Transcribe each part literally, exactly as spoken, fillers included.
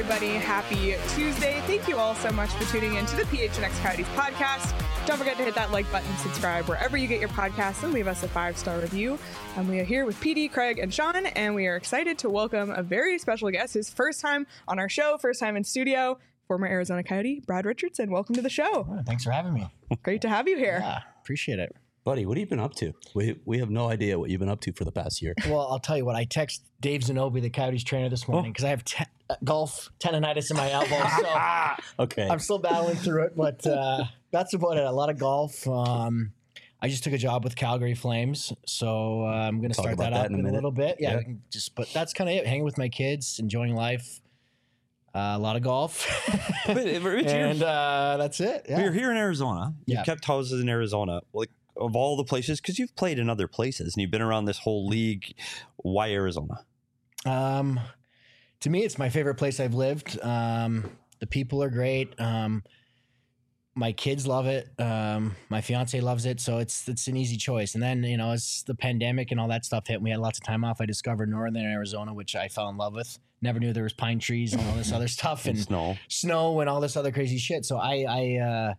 everybody. Happy Tuesday. Thank you all so much for tuning in to the P H N X Coyotes podcast. Don't forget to hit that like button, subscribe wherever you get your podcasts, and leave us a five-star review. And we are here with P D, Craig, and Sean, and we are excited to welcome a very special guest, his first time on our show, first time in studio, former Arizona Coyote, Brad Richardson. Welcome to the show. Oh, thanks for having me. Great to have you here. Yeah, appreciate it. Buddy, what have you been up to? We we have no idea what you've been up to for the past year. Well, I'll tell you what. I text Dave Zanobi, the Coyotes trainer, this morning because oh. I have te- uh, golf tendonitis in my elbow. So okay. I'm still battling through it, but uh, that's about it. A lot of golf. Um, I just took a job with Calgary Flames, so uh, I'm going to start that, that up in a, in a little bit. Yeah, yeah. We can just. But that's kind of it. Hanging with my kids, enjoying life. Uh, a lot of golf. but, Rich, and uh, that's it. Yeah. You're here in Arizona. You've yeah. kept houses in Arizona. Like, of all the places, because you've played in other places and you've been around this whole league, why Arizona? Um, to me, it's my favorite place I've lived. Um, the people are great. Um, my kids love it. Um, my fiance loves it. So it's it's an easy choice. And then, you know, as the pandemic and all that stuff hit, and we had lots of time off, I discovered Northern Arizona, which I fell in love with. Never knew there was pine trees and all this other stuff. and, and snow. Snow and all this other crazy shit. So I... I uh,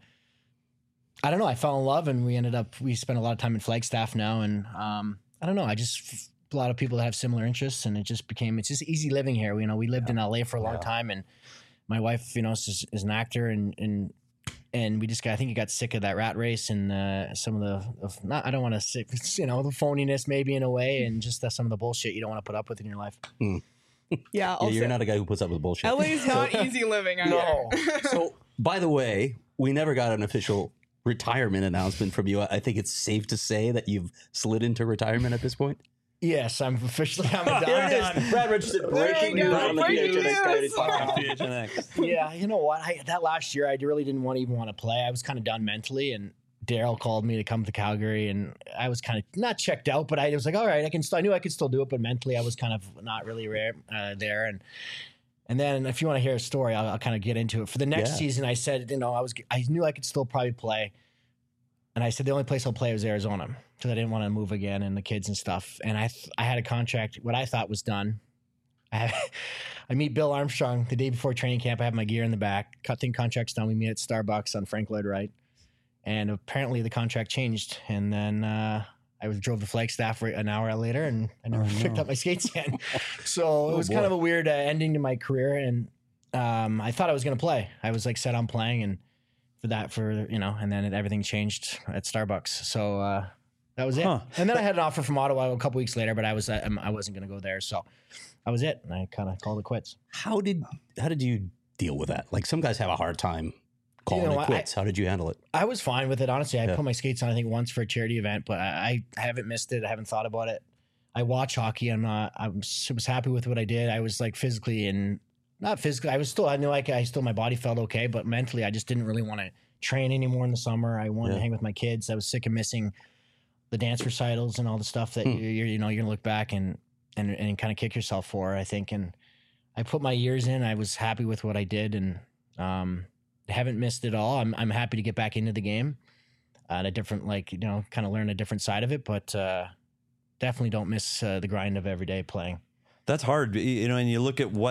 I don't know. I fell in love, and we ended up. We spent a lot of time in Flagstaff now, and um, I don't know. I just a lot of people that have similar interests, and it just became. It's just easy living here. You know, we lived yeah. in L A for a long yeah. time, and my wife, you know, is, is an actor, and and and we just got. I think you got sick of that rat race and uh, some of the. Of, not, I don't want to say, you know, the phoniness maybe in a way, and just uh, some of the bullshit you don't want to put up with in your life. Mm. Yeah, also, yeah, you're not a guy who puts up with bullshit. L A's not easy living. Either. No. So, by the way, we never got an official retirement announcement from you. I think it's safe to say that you've slid into retirement at this point. Yes, I'm officially. I'm done. There it is. Brad Richardson breaking news on the P H N X Coyotes podcast. Yeah, you know what? I, that last year, I really didn't want to even want to play. I was kind of done mentally, and Daryl called me to come to Calgary, and I was kind of not checked out, but I was like, all right, I can. Still, I knew I could still do it, but mentally, I was kind of not really rare, uh, there, and. And then if you want to hear a story, I'll, I'll kind of get into it. For the next yeah. season, I said, you know, I was, I knew I could still probably play. And I said, the only place I'll play was Arizona because I didn't want to move again and the kids and stuff. And I, th- I had a contract, what I thought was done. I have, I meet Bill Armstrong the day before training camp. I have my gear in the back. Cutting contract's done. We meet at Starbucks on Frank Lloyd Wright. And apparently the contract changed. And then, uh, I was drove to Flagstaff an hour later, and I never oh, picked no. up my skates again. So oh, it was boy. kind of a weird uh, ending to my career. And um, I thought I was going to play. I was like set on playing, and for that, for you know, and then it, everything changed at Starbucks. So uh, that was it. Huh. And then I had an offer from Ottawa a couple weeks later, but I was uh, I wasn't going to go there. So that was it, and I kind of called it quits. How did how did you deal with that? Like some guys have a hard time. Calling you know, it quits. I, How did you handle it? I was fine with it, honestly. I yeah. put my skates on, I think, once for a charity event, but I, I haven't missed it. I haven't thought about it. I watch hockey. I'm not. I was, was happy with what I did. I was like physically and not physically. I was still. I knew like I still my body felt okay, but mentally, I just didn't really want to train anymore in the summer. I wanted yeah. to hang with my kids. I was sick of missing the dance recitals and all the stuff that hmm. you you're, you know you're gonna look back and and and kind of kick yourself for. I think, and I put my years in. I was happy with what I did, and um. haven't missed it all. I'm I'm happy to get back into the game at a different, like, you know, kind of learn a different side of it, but uh, definitely don't miss uh, the grind of every day playing. That's hard, you know, and you look at what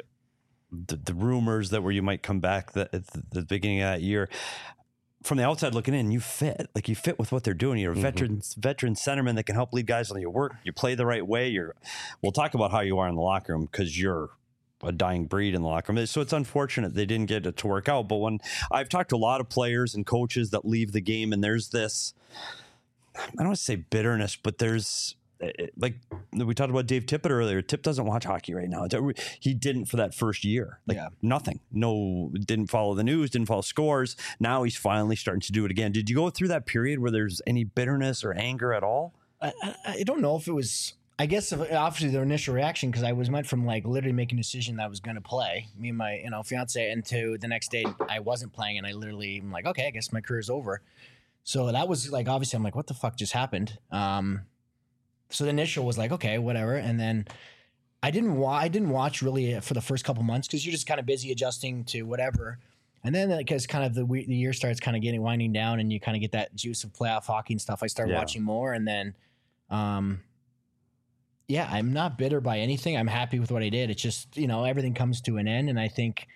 the, the rumors that where you might come back that at the beginning of that year. From the outside looking in, you fit. Like you fit with what they're doing. You're a mm-hmm. veteran veteran centerman that can help lead guys on your work. You play the right way. You're. We'll talk about how you are in the locker room because you're a dying breed in the locker room. So it's unfortunate they didn't get it to work out. But when I've talked to a lot of players and coaches that leave the game, and there's this, I don't want to say bitterness, but there's like we talked about Dave Tippett earlier. Tip doesn't watch hockey right now. He didn't for that first year. Like yeah. nothing. No, didn't follow the news, didn't follow scores. Now he's finally starting to do it again. Did you go through that period where there's any bitterness or anger at all? I, I don't know if it was... I guess obviously the initial reaction, because I was went from like literally making a decision that I was going to play, me and my you know fiance, and to the next day I wasn't playing, and I literally am like, okay, I guess my career's over. So that was like obviously I'm like, what the fuck just happened? Um, so the initial was like, okay, whatever, and then I didn't wa- I didn't watch really for the first couple months because you're just kind of busy adjusting to whatever. And then because kind of the, the year starts kind of getting winding down, and you kind of get that juice of playoff hockey and stuff, I started yeah. watching more, and then. Um, yeah, I'm not bitter by anything. I'm happy with what I did. It's just, you know, everything comes to an end. And I think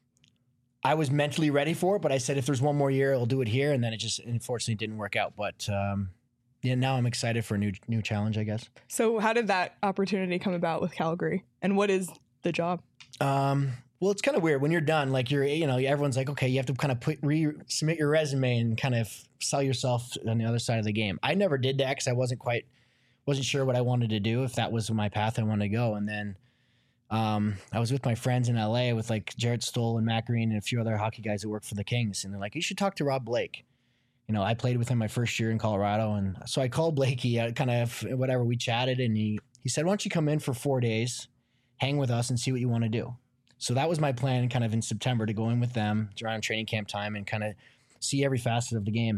I was mentally ready for it, but I said, if there's one more year, I'll do it here. And then it just unfortunately didn't work out. But um, yeah, now I'm excited for a new, new challenge, I guess. So how did that opportunity come about with Calgary? And what is the job? Um, well, it's kind of weird when you're done, like you're, you know, everyone's like, okay, you have to kind of put, re submit your resume and kind of sell yourself on the other side of the game. I never did that because I wasn't quite, wasn't sure what I wanted to do, if that was my path I wanted to go. And then um, I was with my friends in L A with like Jarrett Stoll and Matt Green and a few other hockey guys that work for the Kings. And they're like, you should talk to Rob Blake. You know, I played with him my first year in Colorado. And so I called Blakey, uh, kind of whatever, we chatted, and he, he said, why don't you come in for four days, hang with us and see what you want to do. So that was my plan kind of in September, to go in with them around training camp time and kind of see every facet of the game.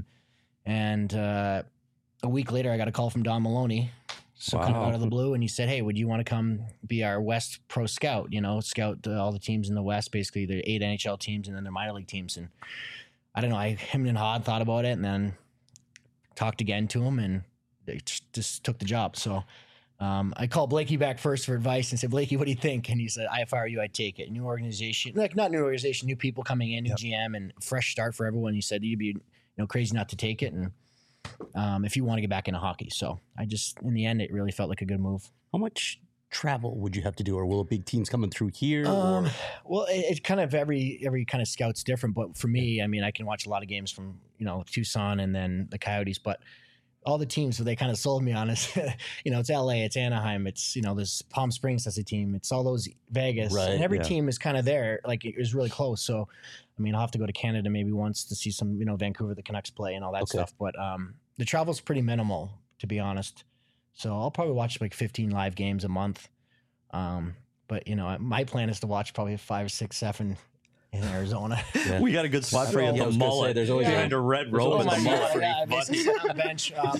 And uh, a week later, I got a call from Don Maloney, so wow. kind of out of the blue, and he said, hey, would you want to come be our West Pro Scout, you know, scout uh, all the teams in the West, basically the eight N H L teams and then their minor league teams. And I don't know, I him and Hod thought about it and then talked again to him, and they just took the job. So um, I called Blakey back first for advice and said, Blakey, what do you think? And he said, if I were you, I'd take it. New organization, like not new organization, new people coming in, new yep. G M, and fresh start for everyone. He said, you'd be you know crazy not to take it. And Um, if you want to get back into hockey. So I just, in the end, it really felt like a good move. How much travel would you have to do, or will big teams coming through here? Um, or? Well, it, it kind of every every kind of scout's different. But for me, I mean, I can watch a lot of games from you know Tucson and then the Coyotes. But all the teams that they kind of sold me on is, you know, it's L A, it's Anaheim, it's you know, there's Palm Springs as a team, it's all those Vegas, right, and every yeah. team is kind of there. Like it was really close. So, I mean, I'll have to go to Canada maybe once to see some, you know, Vancouver, the Canucks play and all that okay. stuff. But um, the travel's pretty minimal, to be honest. So I'll probably watch like fifteen live games a month. Um, but you know, my plan is to watch probably five, six, seven in Arizona. Yeah. We got a good spot for you at yeah, the mullet. Say, there's always behind yeah. a red robe oh with the mullet. God, yeah, basically sit on the bench. Um,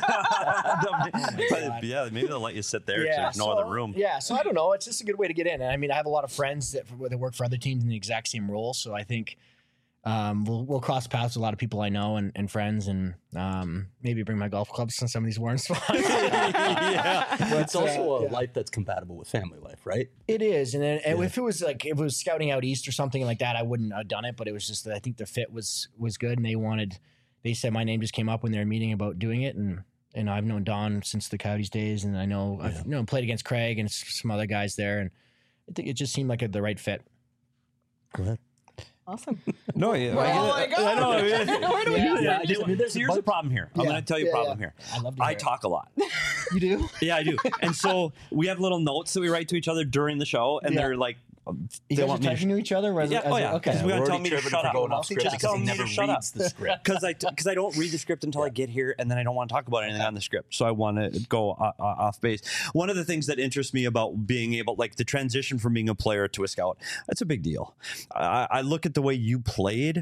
oh yeah, maybe they'll let you sit there. Yeah, there's no so, other room. Yeah, so I don't know. It's just a good way to get in. And I mean, I have a lot of friends that, that work for other teams in the exact same role. So I think um, we'll we'll cross paths with a lot of people I know and, and friends, and um, maybe bring my golf clubs in some of these warm spots. yeah, but it's also uh, a yeah. life that's compatible with family life, right? It is, and, and yeah. if it was like if it was scouting out east or something like that, I wouldn't have done it. But it was just that I think the fit was was good, and they wanted. They said my name just came up when they were meeting about doing it, and and I've known Don since the Coyotes days, and I know yeah. I've you know played against Craig and some other guys there, and I think it just seemed like a, the right fit. Go ahead. Awesome. No, yeah, well, I, I, I know. I mean, Where do we yeah, do yeah, that? I do. There's, here's the problem here. I'm Yeah. going to tell you a Yeah, problem yeah. here. I love to I hear it. talk a lot. You do? Yeah, I do. And so we have little notes that we write to each other during the show, and Yeah. they're like, You they guys are want me to typing to each other? As, Yeah, as oh a- yeah. okay. Because we We're gotta tell already me to tripping shut for up. going off script Just because tell he me never to shut up. reads the script. Because I because I don't read the script until I get here, and then I don't want to talk about anything on the script. So I want to go uh, uh, off base. One of the things that interests me about being able, like the transition from being a player to a scout, that's a big deal. I, I look at the way you played.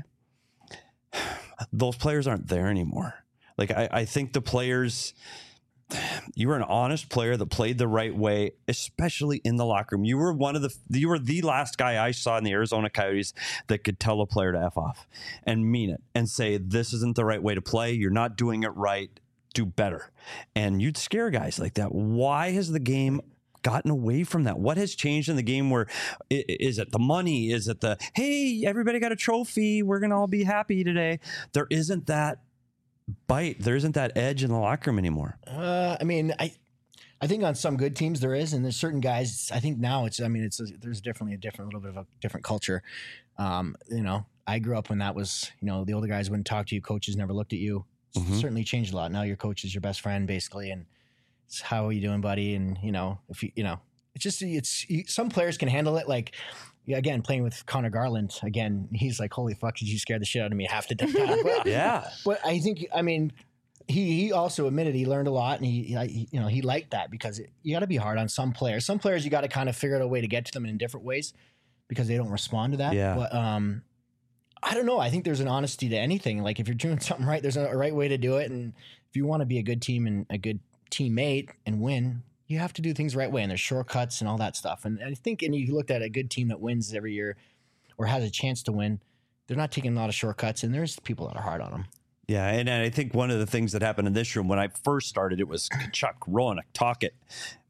Those players aren't there anymore. Like I, I think the players. You were an honest player that played the right way, especially in the locker room. You were one of the you were the last guy I saw in the Arizona Coyotes that could tell a player to F off and mean it and say, this isn't the right way to play. You're not doing it right. Do better. And you'd scare guys like that. Why has the game gotten away from that? What has changed in the game? Where is it the money? Is it the, hey, everybody got a trophy, we're going to all be happy today? There isn't that bite. There isn't that edge in the locker room anymore. Uh, I mean, I, I think on some good teams there is, and there's certain guys. I think now it's. I mean, it's a, there's definitely a different, little bit of a different culture. Um, you know, I grew up when that was. You know, the older guys wouldn't talk to you. Coaches never looked at you. It's Mhm. certainly changed a lot. Now your coach is your best friend, basically, and it's how are you doing, buddy? And you know, if you, you know, it's just it's you, some players can handle it. Like yeah, again, playing with Connor Garland again, he's like, holy fuck, did you scare the shit out of me half the time? But, Yeah. but I think, I mean, he he also admitted he learned a lot, and he, he you know he liked that because it, you got to be hard on some players. Some players you got to kind of figure out a way to get to them in different ways because they don't respond to that. Yeah. But um, I don't know. I think there's an honesty to anything. Like if you're doing something right, there's a, a right way to do it, and if you want to be a good team and a good teammate and win, you have to do things the right way, and there's shortcuts and all that stuff. And I think, and you looked at a good team that wins every year or has a chance to win, they're not taking a lot of shortcuts, and there's people that are hard on them. Yeah, and, and I think one of the things that happened in this room when I first started, it was Kachuk, Roanoke, Tocchet,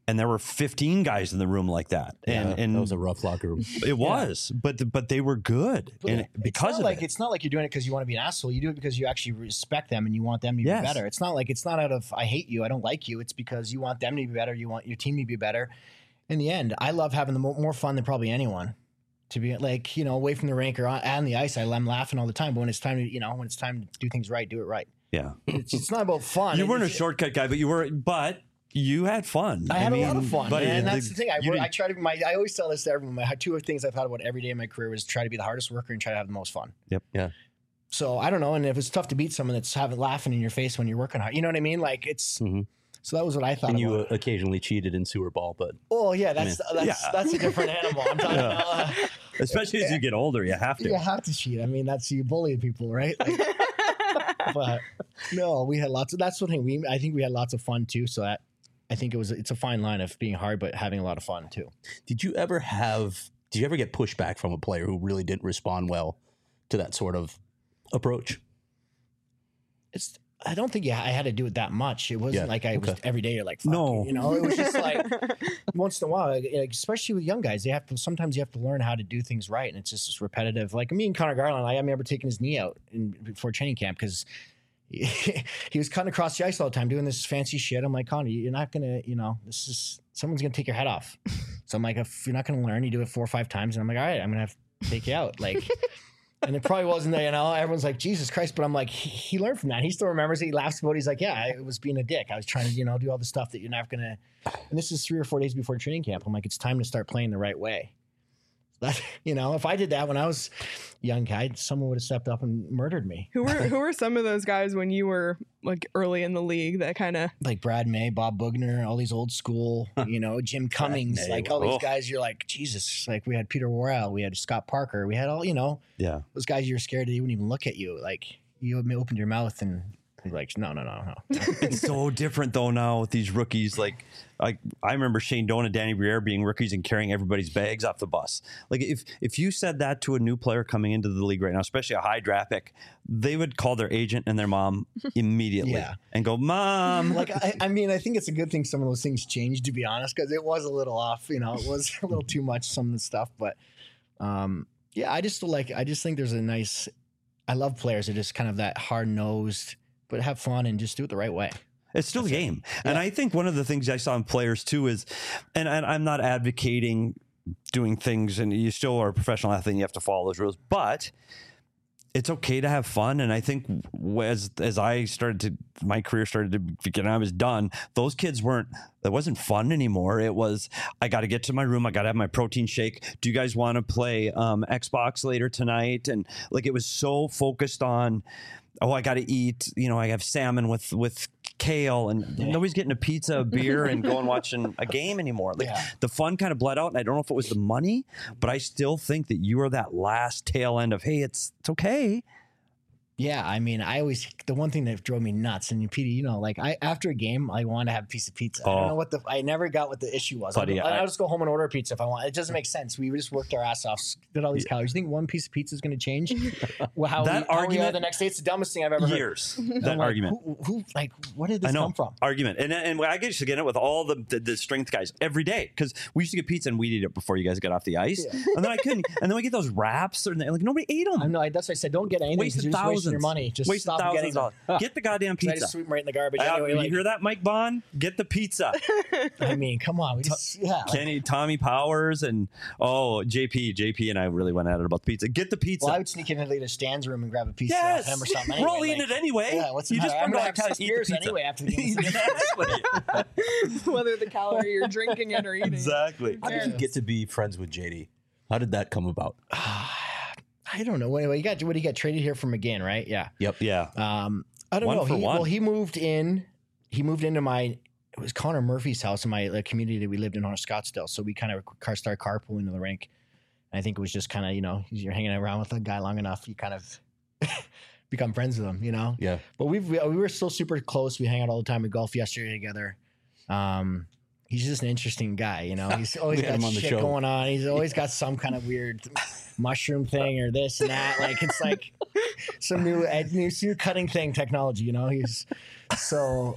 and there were fifteen guys in the room like that. And, Yeah, and that was a rough locker room. it was, but the, but they were good. But and it's because not of like it. it's not like you're doing it because you want to be an asshole. You do it because you actually respect them and you want them to Yes. be better. It's not like it's not out of I hate you, I don't like you. It's because you want them to be better. You want your team to be better. In the end, I love having the mo- more fun than probably anyone. To be like, you know, away from the rink or on, on the ice, I, I'm laughing all the time. But when it's time to, you know, when it's time to do things right, do it right. Yeah. It's, it's not about fun. You weren't a It's- shortcut guy, but you were, but you had fun. I had mean, a lot of fun, buddy, and that's the thing. I, you work, I didn't- try to. My I always tell this to everyone. My two things I thought about every day in my career was try to be the hardest worker and try to have the most fun. Yep. Yeah. So I don't know, and if it's tough to beat someone that's having laughing in your face when you're working hard, you know what I mean? Like it's. Mhm. So that was what I thought. And you about. uh, occasionally cheated in sewer ball, but Oh yeah, that's I that's Yeah. that's a different animal. I'm talking Yeah. about. Uh, especially as you get older, you have to. you have to cheat. I mean, that's you bully people, right? Like, but no, we had lots of. That's the thing. We I think we had lots of fun too. So that I think it was. It's a fine line of being hard but having a lot of fun too. did you ever have, did you ever get pushback from a player who really didn't respond well to that sort of approach? It's. I don't think yeah, I had to do it that much. It wasn't Yeah, like I was okay. every day. You're like, fuck No. you, you know, it was just like once in a while, like, especially with young guys, they have to. Sometimes you have to learn how to do things right, and it's just this repetitive. Like me and Connor Garland, I remember taking his knee out in before training camp because he, he was cutting across the ice all the time doing this fancy shit. I'm like, Connor, you're not gonna, you know, this is someone's gonna take your head off. So I'm like, if you're not gonna learn, you do it four or five times, and I'm like, all right, I'm gonna have to take you out, like. And it probably wasn't, you know, everyone's like, Jesus Christ. But I'm like, he, he learned from that. He still remembers it. He laughs about it. He's like, yeah, I was being a dick. I was trying to, you know, do all the stuff that you're not going to. And this is three or four days before training camp. I'm like, it's time to start playing the right way. That, you know, if I did that when I was a young guy, someone would have stepped up and murdered me. Who were who were some of those guys when you were like early in the league that kind of Like Brad May, Bob Bugner, all these old school, you know, Jim Cummings, May, like all these oh. guys, you're like, Jesus. Like we had Peter Worrell, we had Scott Parker, we had all, you know, Yeah. those guys you're scared they wouldn't even look at you. Like you opened your mouth and you're like, no, no, no, no. It's so different though now with these rookies. Like, like I remember Shane Doan and Danny Briere being rookies and carrying everybody's bags off the bus. Like if if you said that to a new player coming into the league right now, especially a high draft pick, they would call their agent and their mom immediately Yeah. and go, "Mom." Like, I, I mean, I think it's a good thing some of those things changed, to be honest, because it was a little off, you know, it was a little too much, some of the stuff. But um, yeah, I just like, I just think there's a nice, I love players that are just kind of that hard nosed, but have fun and just do it the right way. It's still a game. And I think one of the things I saw in players too is, and, and I'm not advocating doing things, and you still are a professional athlete and you have to follow those rules, but it's okay to have fun. And I think as as I started to, my career started to begin, I was done. Those kids weren't, that wasn't fun anymore. It was, I got to get to my room. I got to have my protein shake. Do you guys want to play um, Xbox later tonight? And like, it was so focused on, oh, I got to eat, you know, I have salmon with, with kale, and Yeah. nobody's getting a pizza, a beer, and going watching a game anymore. Like Yeah. the fun kind of bled out. And I don't know if it was the money, but I still think that you are that last tail end of, hey, it's it's okay. Yeah, I mean, I always the one thing that drove me nuts, and Petey, you know, like I after a game, I want to have a piece of pizza. I Oh. don't know what the I never got what the issue was. Buddy, I'll, I- I'll just go home and order a pizza if I want. It doesn't make sense. We just worked our ass off, did all these calories. You think one piece of pizza is going to change well, how, That we, how we are argument- the next day? It's the dumbest thing I've ever heard. Years. I'm That like, argument. Who, who like where did this I know. come from? Argument. And and I used to get it with all the, the, the strength guys every day because we used to get pizza and we'd eat it before you guys got off the ice. Yeah. And then I couldn't. And then we get those wraps, and like nobody ate them. I know. That's why I said don't get anything. 'cause Wasted you're just thousands. wasting your money. Just Wasted stop thousands getting of them. dollars. Get the goddamn I pizza. just sweep them right in the garbage. Uh, anyway, you like, hear that, Mike Bond? Get the pizza. I mean, come on. We just yeah. like- Kenny, Tommy Powers, and oh, J P, J P, and I really went at it about the pizza. Get the pizza. well, I would sneak in the Stan's room and grab a pizza Yes, off him or something. we're anyway, all eating like- it anyway. Yeah, what's the you just matter? I'm want gonna to have eat six the beers pizza anyway after the game. exactly. whether the calorie you're drinking it or eating. exactly. How did you get to be friends with J D? How did that come about? I don't know. Anyway, you got what he got traded here from McGinn, right? Yeah. Yep. Yeah. Um, I don't One know. for He, one. well, he moved in. He moved into my. It was Connor Murphy's house in my like, community that we lived in on Scottsdale. So we kind of car started carpooling to the rink. And I think it was just kind of you know you're hanging around with a guy long enough, you kind of become friends with him, you know. Yeah. But we've we, we were still super close. We hang out all the time. We golf yesterday together. Um, he's just an interesting guy, you know. He's always We had got him on the shit show. going on. He's always got some kind of weird mushroom thing or this and that. Like it's like some new ed- new, new cutting thing technology, you know. He's so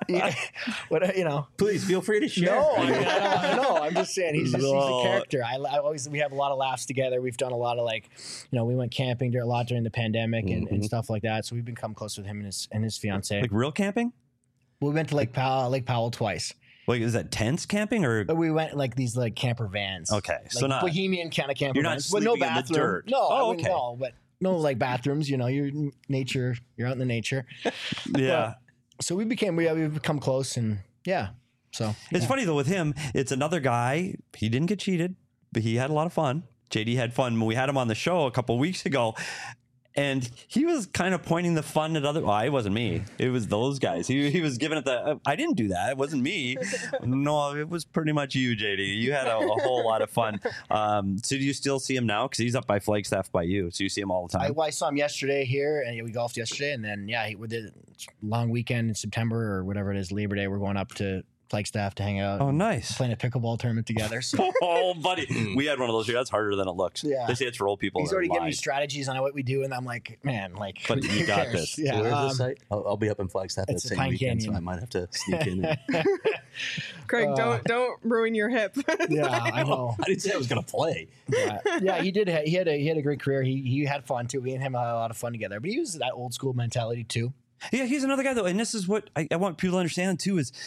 yeah, what you know. Please feel free to share. No, I, mean, I don't know. I'm just saying he's just, he's No. a character. I, I always we have a lot of laughs together. We've done a lot of like, you know, we went camping a lot during the pandemic and, and stuff like that. So we've become close with him and his and his fiance. Like real camping? We went to Lake Powell, Lake Powell twice. Like, is that tents camping or? But we went like these like camper vans. Okay, like so not bohemian kind of camper you're not vans. But no sleeping in the bathroom. dirt. No, Oh, I wouldn't okay. know, but no like bathrooms. You know, you're in nature. You're out in the nature. Yeah. So we became we we've become close and yeah. So It's yeah. funny though with him, it's another guy. He didn't get cheated, but he had a lot of fun. J D had fun. We had him on the show a couple of weeks ago, and he was kind of pointing the fun at other. Well, it wasn't me. It was those guys. He he was giving it the. I didn't do that. It wasn't me. No, it was pretty much you, J D. You had a, a whole lot of fun. Um, so do you still see him now? Because he's up by Flagstaff by you, so you see him all the I, time. well, I saw him yesterday here, and we golfed yesterday, and then yeah, he, we did a long weekend in September or whatever it is, Labor Day. We're going up to Flagstaff to hang out. Oh, nice. Playing a pickleball tournament together. So Oh, buddy, we had one of those here. That's harder than it looks. Yeah. They say it's for old people. he's that already giving me lied. strategies on what we do, and I'm like, man, like, But you who got cares? this. So Yeah, where's um, the site? I'll, I'll be up in Flagstaff that it's the same Pine weekend, so Canyon. I might have to sneak in. And, Craig, Uh, don't don't ruin your hip. yeah, I know. I didn't say I was going to play. Yeah, yeah, he did. ha- He had a he had a great career. He he had fun too. We and him had a lot of fun together. But he was that old school mentality too. Yeah, he's another guy though, and this is what I, I want people to understand too is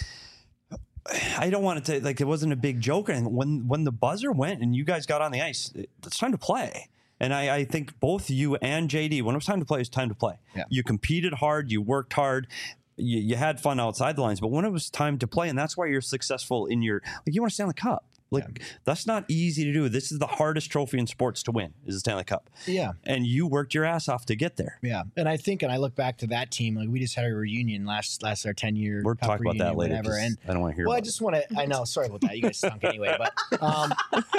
I don't want it to like it wasn't a big joke. And when when the buzzer went and you guys got on the ice, it's time to play. And I, I think both you and J D, when it was time to play, it was time to play. Yeah. You competed hard, you worked hard, you, you had fun outside the lines. But when it was time to play, and that's why you're successful in your like you want to stay on the cup. Like that's not easy to do. This is the hardest trophy in sports to win is the Stanley Cup. Yeah. And you worked your ass off to get there. Yeah, and I think, and I look back to that team. Like we just had a reunion last last our ten year. We're talking about that later. Whatever, 'cause and I don't want to hear well, I about just want to. I know. Sorry about that. You guys stunk anyway. But um,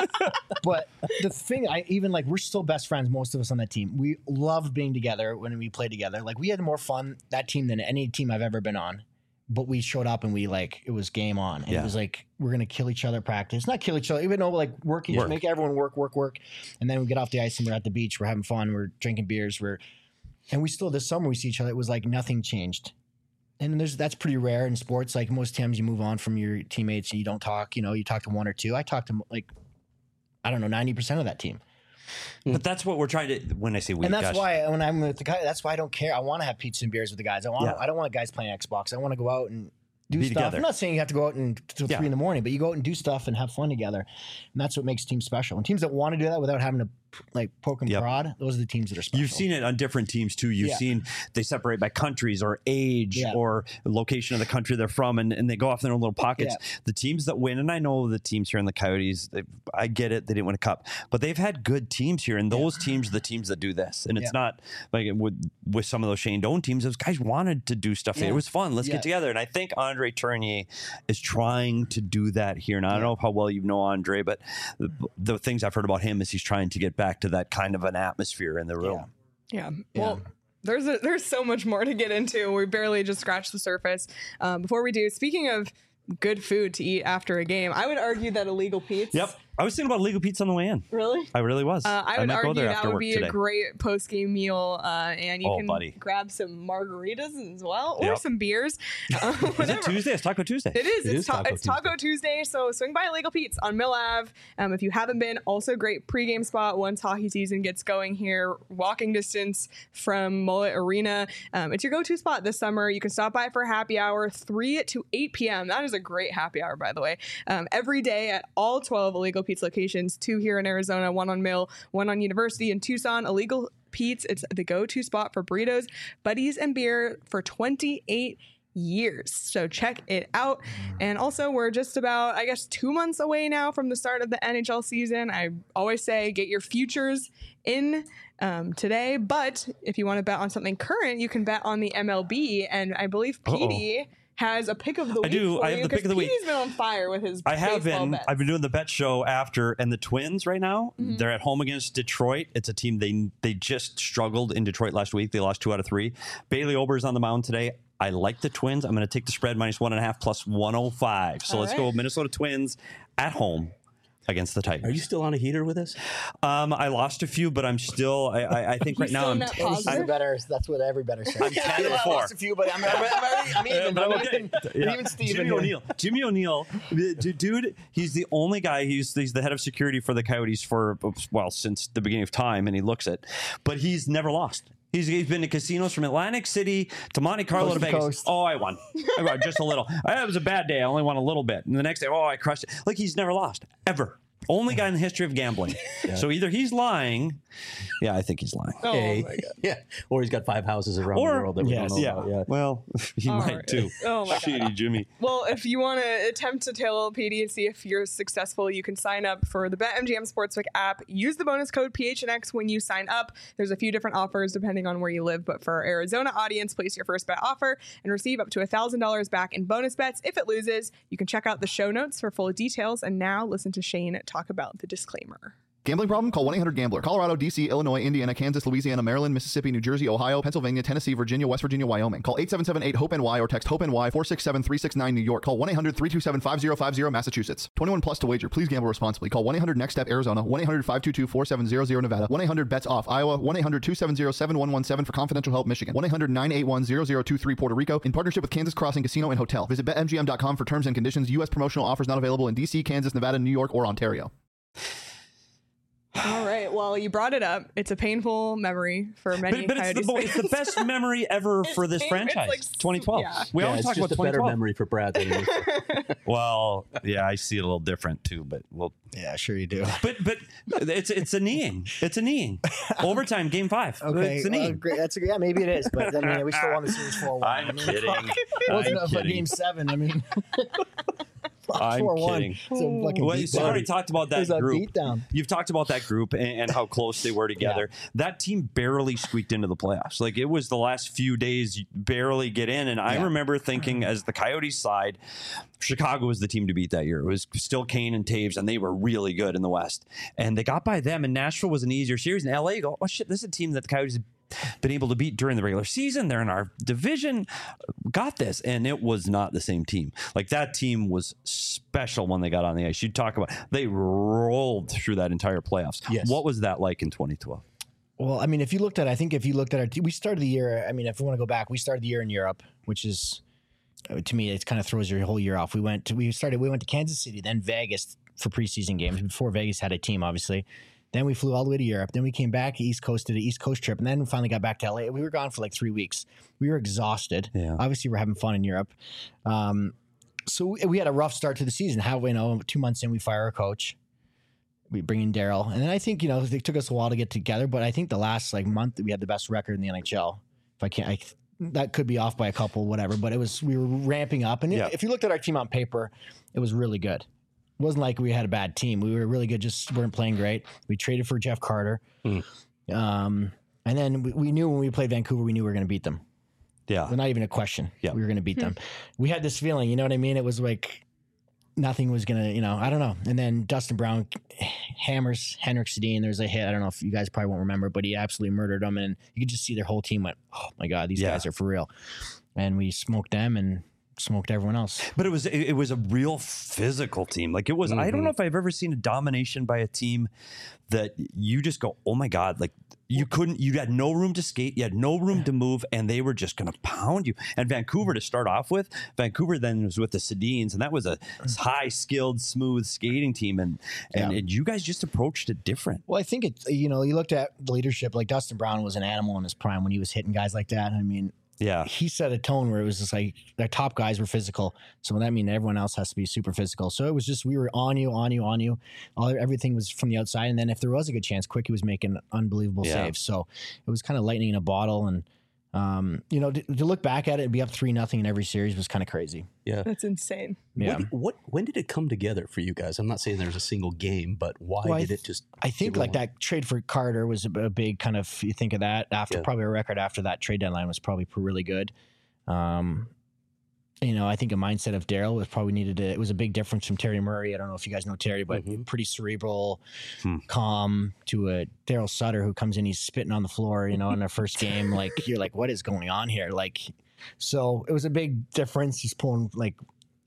but the thing, I even like we're still best friends. Most of us on that team. We loved being together when we played together. Like we had more fun that team than any team I've ever been on. But we showed up and we like it was game on. And Yeah. it was like we're gonna kill each other at practice. Not kill each other, even though like working, Work. make everyone work, work, work. And then we get off the ice and we're at the beach. We're having fun. We're drinking beers. We're and we still this summer we see each other. It was like nothing changed. And there's that's pretty rare in sports. Like most times you move on from your teammates and you don't talk. You know, you talk to one or two. I talked to like I don't know ninety percent of that team. But that's what we're trying to. When I say we, And that's gosh, why when I'm with the guy, that's why I don't care. I want to have pizza and beers with the guys. I want. Yeah. I don't want guys playing Xbox. I want to go out and do Be stuff. together. I'm not saying you have to go out and till Yeah. three in the morning, but you go out and do stuff and have fun together. And that's what makes teams special. And teams that want to do that without having to like poke and Yep. prod, those are the teams that are special. You've seen it on different teams too. You've Yeah. seen they separate by countries or age Yeah. or location of the country they're from, and, and they go off in their own little pockets. Yeah. The teams that win, and I know the teams here in the Coyotes, they, I get it, they didn't win a cup, but they've had good teams here, and those teams are the teams that do this. And it's Yeah. not like it would, with some of those Shane Doan teams, those guys wanted to do stuff. Yeah. It was fun. Let's Yeah. get together. And I think Andre Tournier is trying to do that here. And I don't know how well you know Andre, but the, the things I've heard about him is he's trying to get back to that kind of an atmosphere in the room. Yeah. Well, there's a, there's so much more to get into. We barely just scratched the surface. Um, before we do, speaking of good food to eat after a game, I would argue that Illegal Pete's. Yep. I was thinking about Illegal Pizza on the way in. Really? I really was. Uh, I would might go argue there that after would work be today. a great post game meal, uh, and you Oh, can buddy. grab some margaritas as well, or Yep. some beers. Uh, Is it whatever. Tuesday? It's Taco Tuesday. It is. It it's is ta- Taco it's Taco Tuesday. So swing by Illegal Pete's on Mill Ave. Um, if you haven't been, also great pregame spot once hockey season gets going here. Walking distance from Mullet Arena. Um, it's your go-to spot this summer. You can stop by for happy hour, three to eight p.m. That is a great happy hour, by the way. Um, every day at all twelve Illegal Pete's locations, two here in Arizona, one on Mill, one on University in Tucson. Illegal Pete's, it's the go-to spot for burritos, buddies, and beer for twenty-eight years. So check it out. And also, we're just about, I guess, two months away now from the start of the N H L season. I always say get your futures in um, today, but if you want to bet on something current, you can bet on the M L B. And I believe Petey has a pick of the I week. do. For I have you, the pick of the 'cause week. Petey's been on fire with his I have baseball been. bets. I've been doing the bet show after, and the Twins right now, Mm-hmm. they're at home against Detroit. It's a team they they just struggled in Detroit last week. They lost two out of three. Bailey Ober's on the mound today. I like the Twins. I'm going to take the spread minus one and a half plus one oh five. So All let's right. go Minnesota Twins at home against the Titans. Are you still on a heater with us? Um, I lost a few, but I'm still. I, I, I think right now still I'm. net T- positive? I'm better. That's what every better says. I'm ten and I four. lost a few, but I'm, I'm, I'm, already, I'm even. But I'm I'm okay. even, Yeah. even Steven Jimmy here. O'Neill. Jimmy O'Neill, the d- dude. He's the only guy. He's he's the head of security for the Coyotes for well since the beginning of time, and he looks it, but he's never lost. He's, he's been to casinos from Atlantic City to Monte Carlo Coast to to Vegas. coast. Oh, I won. I won just a little. It was a bad day. I only won a little bit. And the next day, oh, I crushed it. Like he's never lost ever. Only guy in the history of gambling. So either he's lying. Yeah, I think he's lying. Oh Hey. my God. Yeah. Or he's got five houses around Or- the world that we Yes. don't know Yeah. about. Yeah. Well, he All might right. too. Oh my God. Shitty Jimmy. Well, if you want to attempt to tail P D and see if you're successful, you can sign up for the BetMGM Sportsbook app. Use the bonus code P H N X when you sign up. There's a few different offers depending on where you live, but for our Arizona audience, place your first bet offer and receive up to one thousand dollars back in bonus bets if it loses. You can check out the show notes for full details. And now listen to Shane talk about the disclaimer. Gambling problem? Call one eight hundred gambler. Colorado, D C, Illinois, Indiana, Kansas, Louisiana, Maryland, Mississippi, New Jersey, Ohio, Pennsylvania, Tennessee, Virginia, West Virginia, Wyoming. Call eight seven seven eight hope N Y or text HOPE-NY four six seven three six nine New York. Call one eight hundred three two seven five zero five zero Massachusetts. twenty-one plus to wager. Please gamble responsibly. Call one eight hundred next step Arizona. one eight hundred five two two four seven zero zero Nevada. one eight hundred bets off Iowa. one eight hundred two seven zero seven one one seven for confidential help Michigan. one eight hundred nine eight one zero zero two three Puerto Rico. In partnership with Kansas Crossing Casino and Hotel. Visit bet M G M dot com for terms and conditions. U S promotional offers not available in D C, Kansas, Nevada, New York, or Ontario. All right. Well, you brought it up. It's a painful memory for many But, but it's, the, Coyotes it's the fans. best memory ever for this pain- it's franchise. like- twenty twelve. yeah. We Yeah, always it's talk just about a better twenty twelve. memory for Brad than it is. Well, yeah, I see it a little different too, but well, Yeah, sure you do. but but it's it's a kneeing. It's a kneeing. Overtime, game five. Okay, it's a well, kneeing. great. That's a, yeah, maybe it is, but I mean, we still won the series four one. I'm I mean, kidding. It wasn't I'm a kidding. game seven. I mean, I'm four one. kidding. It's a fucking Well, beatdown. you've already talked about It that was a group. beatdown. You've talked about that group and, and how close they were together. That team barely squeaked into the playoffs. Like it was the last few days, you barely get in. And I Yeah. remember thinking, as the Coyotes side, Chicago was the team to beat that year. It was still Kane and Taves, and they were really good in the West. And they got by them. And Nashville was an easier series. In L A, you go, oh shit, this is a team that the Coyotes been able to beat during the regular season. They're in our division. Got this. And it was not the same team. Like that team was special when they got on the ice. You talk about, they rolled through that entire playoffs. Yes. What was that like in twenty twelve? Well, I mean, if you looked at, I think if you looked at our, te- we started the year. I mean, if we want to go back, we started the year in Europe, which is, uh, to me, it kind of throws your whole year off. We went to, we started, we went to Kansas City, then Vegas for preseason games before Vegas had a team, obviously. Then we flew all the way to Europe. Then we came back East Coast to the East Coast trip, and then we finally got back to L A. We were gone for like three weeks. We were exhausted. Yeah. Obviously, we're having fun in Europe. Um, so we, we had a rough start to the season. How you know, two months in, we fire our coach. We bring in Daryl, and then I think you know it took us a while to get together. But I think the last like month we had the best record in the N H L. If I can't, I, that could be off by a couple, whatever. But it was we were ramping up, and Yeah. if you looked at our team on paper, it was really good. It wasn't like we had a bad team. We were really good, just weren't playing great. We traded for Jeff Carter. Mm. Um, and then we, we knew when we played Vancouver, we knew we were going to beat them. Yeah. Well, not even a question. Yeah. We were going to beat them. We had this feeling, you know what I mean? It was like nothing was going to, you know, I don't know. And then Dustin Brown hammers Henrik Sedin. There's a hit. I don't know if you guys probably won't remember, but he absolutely murdered them. And you could just see their whole team went, oh my God, these Yeah. guys are for real. And we smoked them and smoked everyone else. But it was it, it was a real physical team. Like it was. I don't know if I've ever seen a domination by a team that you just go, oh my God, like you couldn't. You had no room to skate. You had no room to move, and they were just going to pound you. And Vancouver to start off with, Vancouver then was with the Sedins, and that was a high skilled, smooth skating team. And and, Yeah. and you guys just approached it different. Well, I think it, you know, you looked at the leadership, like Dustin Brown was an animal in his prime when he was hitting guys like that. I mean, Yeah. he set a tone where it was just like the top guys were physical. So that means everyone else has to be super physical. So it was just, we were on you, on you, on you. All, everything was from the outside. And then if there was a good chance, Quickie was making unbelievable Yeah. saves. So it was kind of lightning in a bottle. And, um, you know, to, to look back at it and be up three nothing in every series was kind of crazy. Yeah. That's insane. Yeah. What, what? When did it come together for you guys? I'm not saying there's a single game, but why Well, I did th- it just? I think get like rolling? that trade for Carter was a, a big kind of, you think of that after Yeah. probably a record after that trade deadline was probably pr- really good. Um, you know, I think a mindset of Daryl was probably needed to, it was a big difference from Terry Murray. I don't know if you guys know Terry, but Mhm. pretty cerebral, Hmm. calm to a Daryl Sutter who comes in, he's spitting on the floor, you know, in their first game. Like, you're like, what is going on here? Like, so it was a big difference. He's pulling like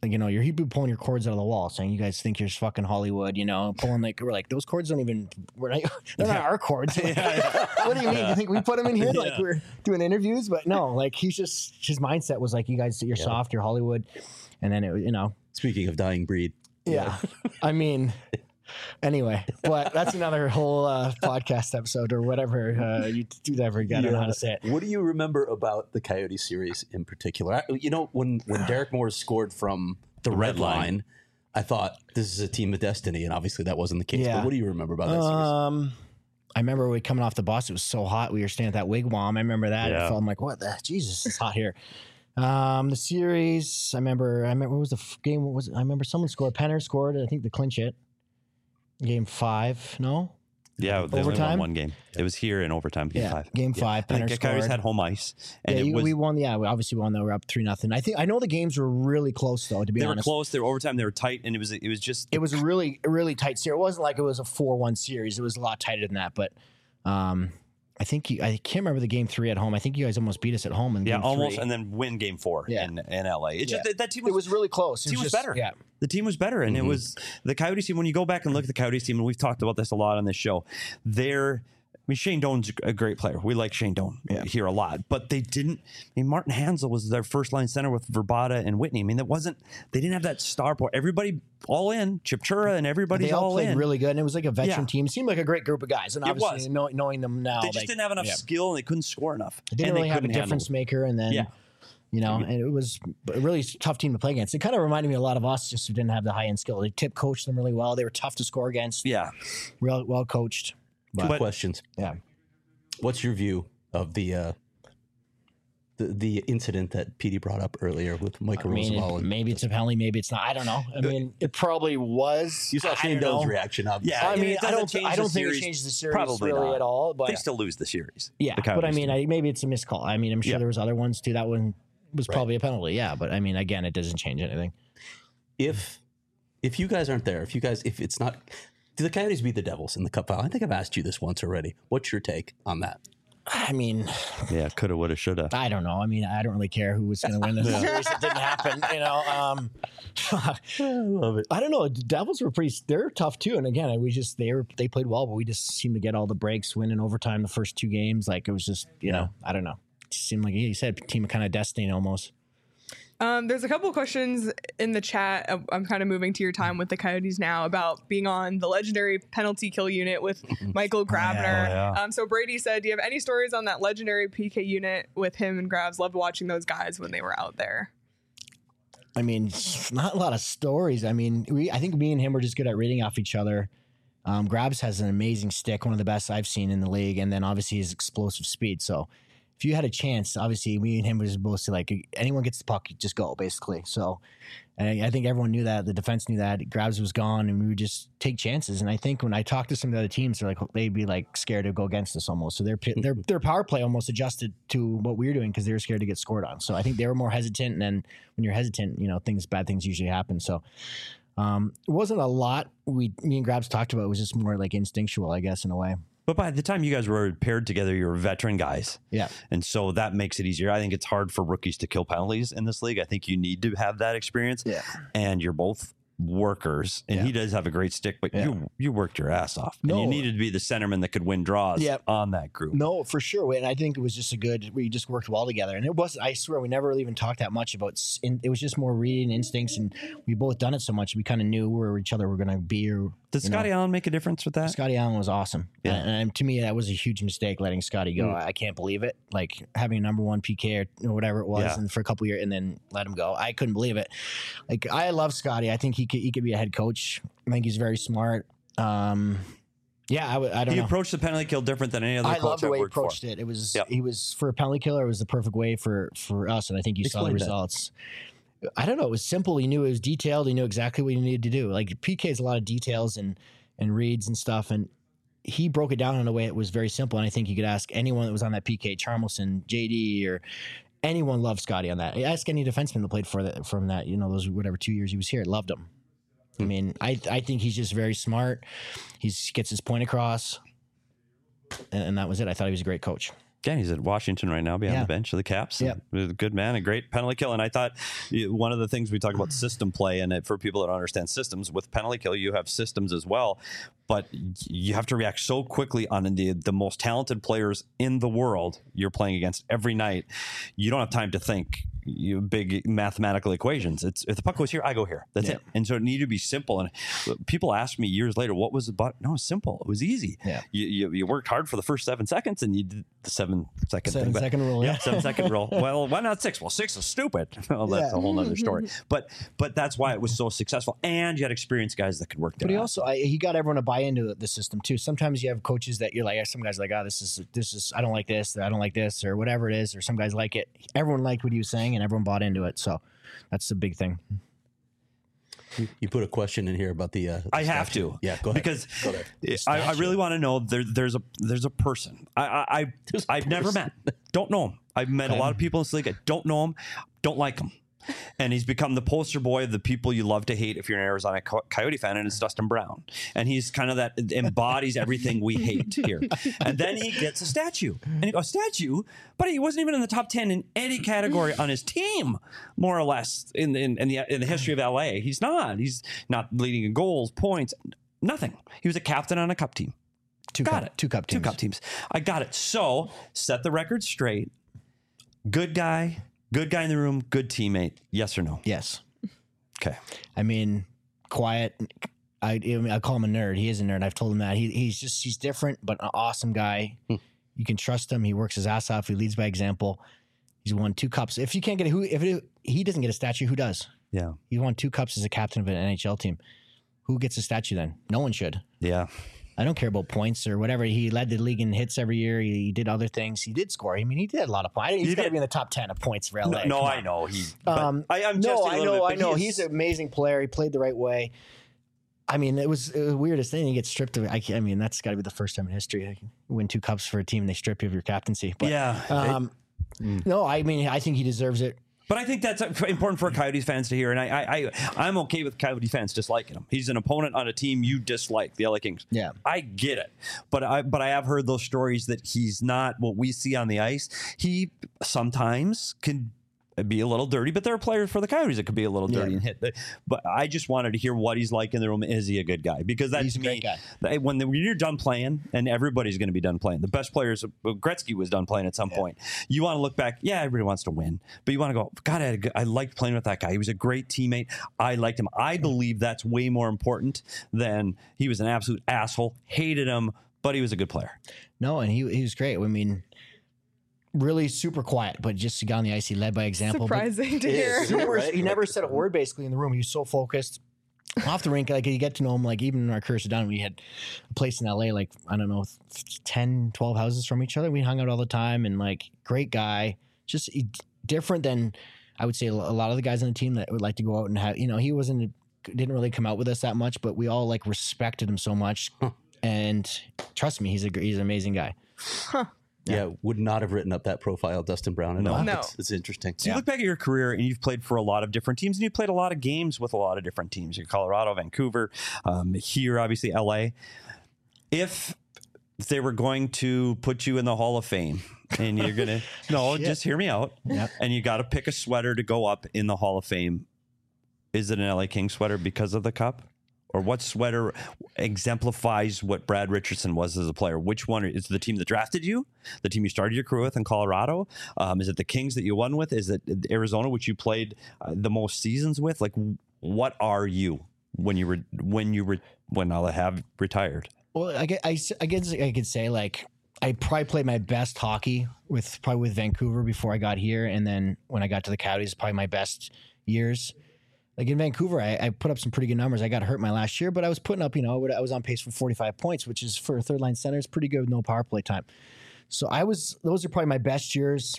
like, you know, you're he'd be pulling your cords out of the wall, saying you guys think you're fucking Hollywood, you know, pulling like we're like those cords don't even we're not, they're not our cords. Like, what do you mean? You think we put them in here like Yeah. we're doing interviews? But no, like he's just his mindset was like, you guys, you're Yeah. soft, you're Hollywood, and then it, you know, Speaking of dying breed, yeah. I mean, anyway, but that's another whole uh, podcast episode or whatever uh, you do that ever again. I don't know how to say it. What do you remember about the Coyote series in particular? I, you know, when when Derek Morris scored from the red, red line, line. I thought this is a team of destiny, and obviously that wasn't the case. Yeah. But what do you remember about that series? Um, I remember we coming off the bus. It was so hot. We were staying at that wigwam. I remember that. Yeah. I felt I'm like, what the Jesus? It's hot here. Um, the series. I remember. I remember. What was the f- game? What was it? I remember someone scored. Penner scored. I think to clinch it. Game five. No. Yeah, they only Overtime? won one game. It was here in overtime, game Yeah. five. Game five. I Penner think Coyotes scored. had home ice, and yeah, it you- was we won. Yeah, we obviously won. Though we we're up three nothing. I think I know the games were really close though. To be they were honest, close. They were overtime. They were tight, and it was it was just it was a really a really tight series. It wasn't like it was a four one series. It was a lot tighter than that. But um, I think you, I can't remember the game three at home. I think you guys almost beat us at home in yeah, game almost, three. and then win game four Yeah. in in L A. It's Yeah. just that, that team was, It was really close. the It team was just- better. Yeah. The team was better, and Mhm. it was the Coyotes team. When you go back and look at the Coyotes team, and we've talked about this a lot on this show, they're. I mean, Shane Doan's a great player. We like Shane Doan Yeah. here a lot, but they didn't. I mean, Martin Hansel was their first line center with Verbata and Whitney. I mean, that wasn't. They didn't have that star power. Everybody all in, Chipchura, and everybody's They all, all played in. really good, and it was like a veteran Yeah. team. It seemed like a great group of guys, and It obviously was. know, knowing them now, they just like, didn't have enough yeah. skill, and they couldn't score enough. They didn't and really they have a couldn't handle difference it. maker, and then Yeah. you know, and it was a really tough team to play against. It kind of reminded me a lot of us, just who didn't have the high end skill. They tip coached them really well. They were tough to score against. Yeah, Real well coached. Two But, But- questions. yeah. What's your view of the uh, the the incident that Petey brought up earlier with I Michael mean, Roosevelt? it- maybe it's a penalty, maybe it's not. I don't know. I mean, it probably was. You saw I Shane don't Doan's know. reaction. Obviously. Yeah, I and mean, it I doesn't don't. change I the don't think it series. changes the series Probably really not. at all. But they still lose the series. yeah, the but I Coyotes mean, do. I, maybe it's a missed call. I mean, I'm sure Yeah. there was other ones too. That one was Right. probably a penalty. Yeah, but I mean, again, it doesn't change anything. if if you guys aren't there, if you guys, if it's not, do the Coyotes beat the Devils in the Cup final? I think I've asked you this once already. What's your take on that? I mean, Yeah, coulda, woulda, shoulda. I don't know. I mean, I don't really care who was going to win this series. It didn't happen. You know. Um, I love it. I don't know. The Devils were pretty. They're tough too. And again, we just they were they played well, but we just seemed to get all the breaks, win in overtime the first two games. Like it was just you know I don't know. It just seemed like you said team of kind of destiny almost. Um, there's a couple of questions in the chat. uh, I'm kind of moving to your time with the Coyotes now about being on the legendary penalty kill unit with Michael Grabner. yeah. Um, so Brady said, do you have any stories on that legendary P K unit with him and Grabs? Loved watching those guys when they were out there. I mean, not a lot of stories. I mean, we I think me and him were just good at reading off each other. Um, Grabs has an amazing stick, one of the best I've seen in the league, and then obviously his explosive speed. So if you had a chance, obviously me and him were supposed to like anyone gets the puck, just go basically. So, and I, I think everyone knew that. The defense knew that. Grabs was gone, and we would just take chances. And I think when I talked to some of the other teams, they're like they'd be like scared to go against us almost. So their their their power play almost adjusted to what we were doing because they were scared to get scored on. So I think they were more hesitant. And then when you're hesitant, you know things bad things usually happen. So. Um, it wasn't a lot we me and Grabs talked about. It was just more like instinctual, I guess, in a way. But by the time you guys were paired together, you were veteran guys. Yeah. And so that makes it easier. I think it's hard for rookies to kill penalties in this league. I think you need to have that experience. Yeah. And you're both workers, and Yeah. he does have a great stick, but Yeah. you you worked your ass off. And No. you needed to be the centerman that could win draws Yeah. on that group. No, for sure. And I think it was just a good, we just worked well together. And it was, I swear, we never really even talked that much about, s- in, it was just more reading instincts. And we both done it so much. We kind of knew where each other were going to be. Or, Did you know. Scotty Allen make a difference with that? Scotty Allen was awesome. Yeah. And, and to me, that was a huge mistake letting Scotty go. Mm. I can't believe it. Like having a number one P K or, or whatever it was Yeah. and for a couple years and then let him go. I couldn't believe it. Like I love Scotty. I think he could, he could be a head coach. I think he's very smart. Um, yeah, I, w- I don't He know. approached the penalty kill different than any other I coach love the I've way he worked for. approached it. It was Yep. he was for a penalty killer. It was the perfect way for for us, and I think you saw the Explain that. results. I don't know. It was simple. He knew it was detailed. He knew exactly what he needed to do. Like P K is a lot of details and and reads and stuff, and he broke it down in a way it was very simple. And I think you could ask anyone that was on that P K, Charmelson, J D, or anyone loved Scotty on that. Ask any defenseman that played for that from that. You know those whatever two years he was here, loved him. I mean, I I think he's just very smart. He gets his point across, and, and that was it. I thought he was a great coach. Again, he's at Washington right now behind Yeah. the bench of the Caps. Yep. He's a good man, a great penalty kill. And I thought you- one of the things we talk about system play, and it, for people that don't understand systems, with penalty kill, you have systems as well. But you have to react so quickly on the, the most talented players in the world you're playing against every night. You don't have time to think you big mathematical equations. It's if the puck goes here, I go here. That's Yeah. it. And so it needed to be simple. And people asked me years later, what was the but? No, it's simple. It was easy. Yeah. You, you you worked hard for the first seven seconds, and you did the seven second Seven thing. But- second rule, yeah. seven second rule. Well, why not six? Well, six is stupid. Well, that's Yeah. a whole nother story. But but that's why it was so successful. And you had experienced guys that could work there. But he also I, he got everyone to buy into the system too. Sometimes you have coaches that you're like, some guys are like, oh, this is this is I don't like this, or I don't like this, or whatever it is, or some guys like it. Everyone liked what he was saying, and everyone bought into it. So that's the big thing. You, you put a question in here about the. Uh, the I have statue. to, Yeah, go ahead. because Go there. I, I really want to know. There, there's a there's a person I I, I There's a I've never person. met. Don't know him. I've met a Okay. lot of people in this league. I don't know him. Don't like him. And he's become the poster boy of the people you love to hate if you're an Arizona Co- Coyote fan, and it's Dustin Brown. And he's kind of that embodies everything we hate here. And then he gets a statue. And he goes, statue? But he wasn't even in the top ten in any category on his team, more or less, in, in, in, the, in the history of L A. He's not. He's not leading in goals, points, nothing. He was a captain on a cup team. Two Got cup, it. Two cup Two teams. cup teams. I got it. So set the record straight. Good guy. Good guy in the room. Good teammate. Yes or no? Yes. Okay. I mean, quiet. I, I, mean, I call him a nerd. He is a nerd. I've told him that. He, he's just, he's different, but an awesome guy. You can trust him. He works his ass off. He leads by example. He's won two cups. If you can't get a, who, if it, he doesn't get a statue, who does? Yeah. He won two cups as a captain of an N H L team. Who gets a statue then? No one should. Yeah. I don't care about points or whatever. He led the league in hits every year. He, he did other things. He did score. I mean, he did a lot of points. He's He got to did. be in the top ten of points for L A. No, no Come I on. know. He, but Um, I, I'm no, jesting a I little know, bit, I but know. he He's is- an amazing player. He played the right way. I mean, it was, it was the weirdest thing. He gets stripped of. I, I mean, that's got to be the first time in history. You win two cups for a team, and they strip you of your captaincy. But, yeah. Um, no, I mean, I think he deserves it. But I think that's important for Coyotes fans to hear, and I, I, I, I'm okay with Coyote fans disliking him. He's an opponent on a team you dislike, the L A Kings. Yeah. I get it, but I, but I have heard those stories that he's not what we see on the ice. He sometimes can be a little dirty, but there are players for the Coyotes that could be a little dirty Yeah. and hit. But I just wanted to hear what he's like in the room. Is he a good guy? Because that He's to a me, great guy. that- when, the, when you're done playing, and everybody's going to be done playing. The best players, Gretzky was done playing at some point. You want to look back. Yeah, everybody wants to win, but you want to go, God, I, had a good- I liked playing with that guy. He was a great teammate. I liked him. I believe that's way more important than he was an absolute asshole. Hated him, but he was a good player. No, and he he was great. I mean, really super quiet, but just he got on the ice. He led by example. but- Surprising to It hear. is. Super, Right? He never said a word basically in the room. He was so focused. Off the rink, like you get to know him, like even in our careers done, we had a place in L A, like, I don't know, ten, twelve houses from each other. We hung out all the time and like great guy, just he- different than I would say a lot of the guys on the team that would like to go out and have, you know, he wasn't, didn't really come out with us that much, but we all like respected him so much. And trust me, he's a, he's an amazing guy. Yeah, would not have written up that profile, Dustin Brown. At No. all. No. It's, it's interesting. So you look back at your career and you've played for a lot of different teams, and you've played a lot of games with a lot of different teams. You're Colorado, Vancouver, um, here, obviously L A. If they were going to put you in the Hall of Fame and you're going to, no, Shit. just hear me out. Yep. And you got to pick a sweater to go up in the Hall of Fame. Is it an L A King sweater because of the cup? Or what sweater exemplifies what Brad Richardson was as a player? Which one is it the team that drafted you? The team you started your career with in Colorado? Um, is it the Kings that you won with? Is it Arizona, which you played uh, the most seasons with? Like, what are you when you were when you were when I'll have retired? Well, I, gue- I, s- I guess I could say like I probably played my best hockey with probably with Vancouver before I got here, and then when I got to the Coyotes, probably my best years. Like in Vancouver, I, I put up some pretty good numbers. I got hurt my last year, but I was putting up, you know, I was on pace for forty-five points, which is for a third line center, it's pretty good with no power play time. So I was, those are probably my best years.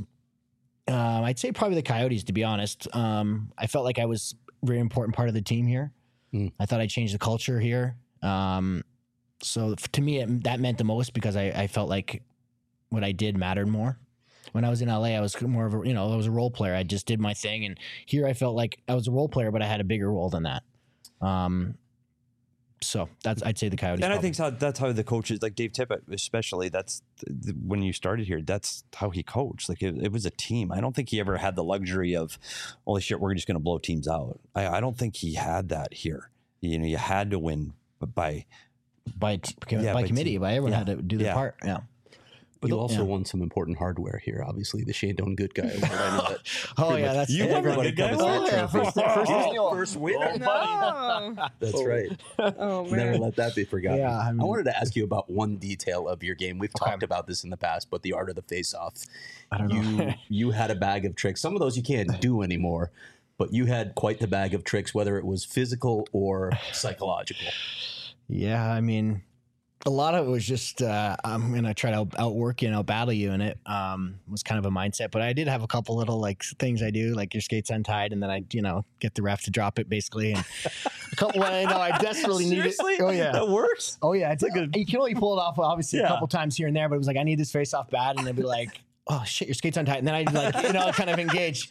Um, I'd say probably the Coyotes, to be honest. Um, I felt like I was a very important part of the team here. Mm. I thought I changed the culture here. Um, so f- to me, it, that meant the most because I, I felt like what I did mattered more. When I was in L A, I was more of a, you know, I was a role player. I just did my thing. And here I felt like I was a role player, but I had a bigger role than that. Um, So that's I'd say the Coyotes. And I probably. think so, that's how the coaches, like Dave Tippett, especially. That's th- th- when you started here. That's how he coached. Like it, it was a team. I don't think he ever had the luxury of, holy shit, we're just going to blow teams out. I, I don't think he had that here. You know, you had to win by by t- Yeah, by by committee, team. by everyone Yeah. had to do their Yeah. part. Yeah. But you the- also yeah. won some important hardware here. Obviously, the Shandong Good Guy Award. I know that. Oh pretty yeah, much that's You won the everybody Good Guy comes Award? with Oh, a yeah, trophy. first- first Oh, annual. first winner. No. That's right. Oh man. Never let that be forgotten. Yeah, I I, mean- wanted to ask you about one detail of your game. We've Okay. talked about this in the past, but the art of the face-off. I don't know. You you had a bag of tricks. Some of those you can't do anymore, but you had quite the bag of tricks, whether it was physical or psychological. Yeah, I mean, a lot of it was just uh, I'm gonna try to out- outwork you and out battle you, and it um, was kind of a mindset. But I did have a couple little like things I do, like your skates untied, and then I you know get the ref to drop it basically, and a couple when I know I desperately need it. Seriously? Oh yeah, That works? oh yeah. It's like a, you can only pull it off obviously Yeah. a couple times here and there, but it was like I need this face off bad, and they'd be like, oh shit, your skates untied, and then I'd like you know kind of engage.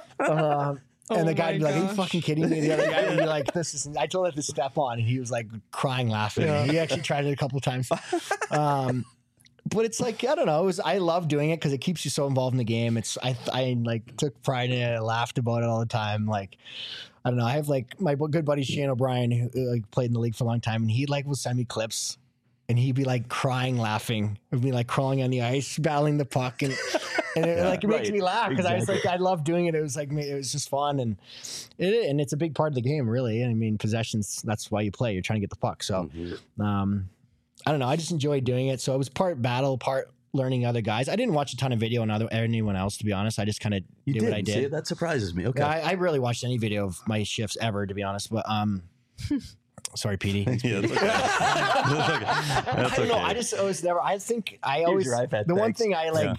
Um, And Oh the guy would be my like, are you gosh. fucking kidding me? The other guy would be like, this is, I told him to step on, and he was like crying, laughing. He actually tried it a couple of times. Um, but it's like, I don't know. It was, I love doing it because it keeps you so involved in the game. It's, I, I like took pride in it. I laughed about it all the time. Like, I don't know. I have like my good buddy Shane O'Brien, who uh, like played in the league for a long time, and he like will send me clips. And he'd be like crying, laughing. It'd be like crawling on the ice, battling the puck, and and it like it makes right. me laugh because I was like, I love doing it. It was like it was just fun, and it and it's a big part of the game, really. I mean, possessions. That's why you play. You're trying to get the puck. So, um, I don't know. I just enjoy doing it. So it was part battle, part learning other guys. I didn't watch a ton of video on other anyone else, to be honest. I just kind of You did, did. what I did. See, that surprises me. Okay. I, I rarely watched any video of my shifts ever, to be honest. But um, sorry, Petey. Yeah, that's okay. That's okay. That's I don't know. okay. I just always never. I think I always. your iPad, the one thanks. thing I like,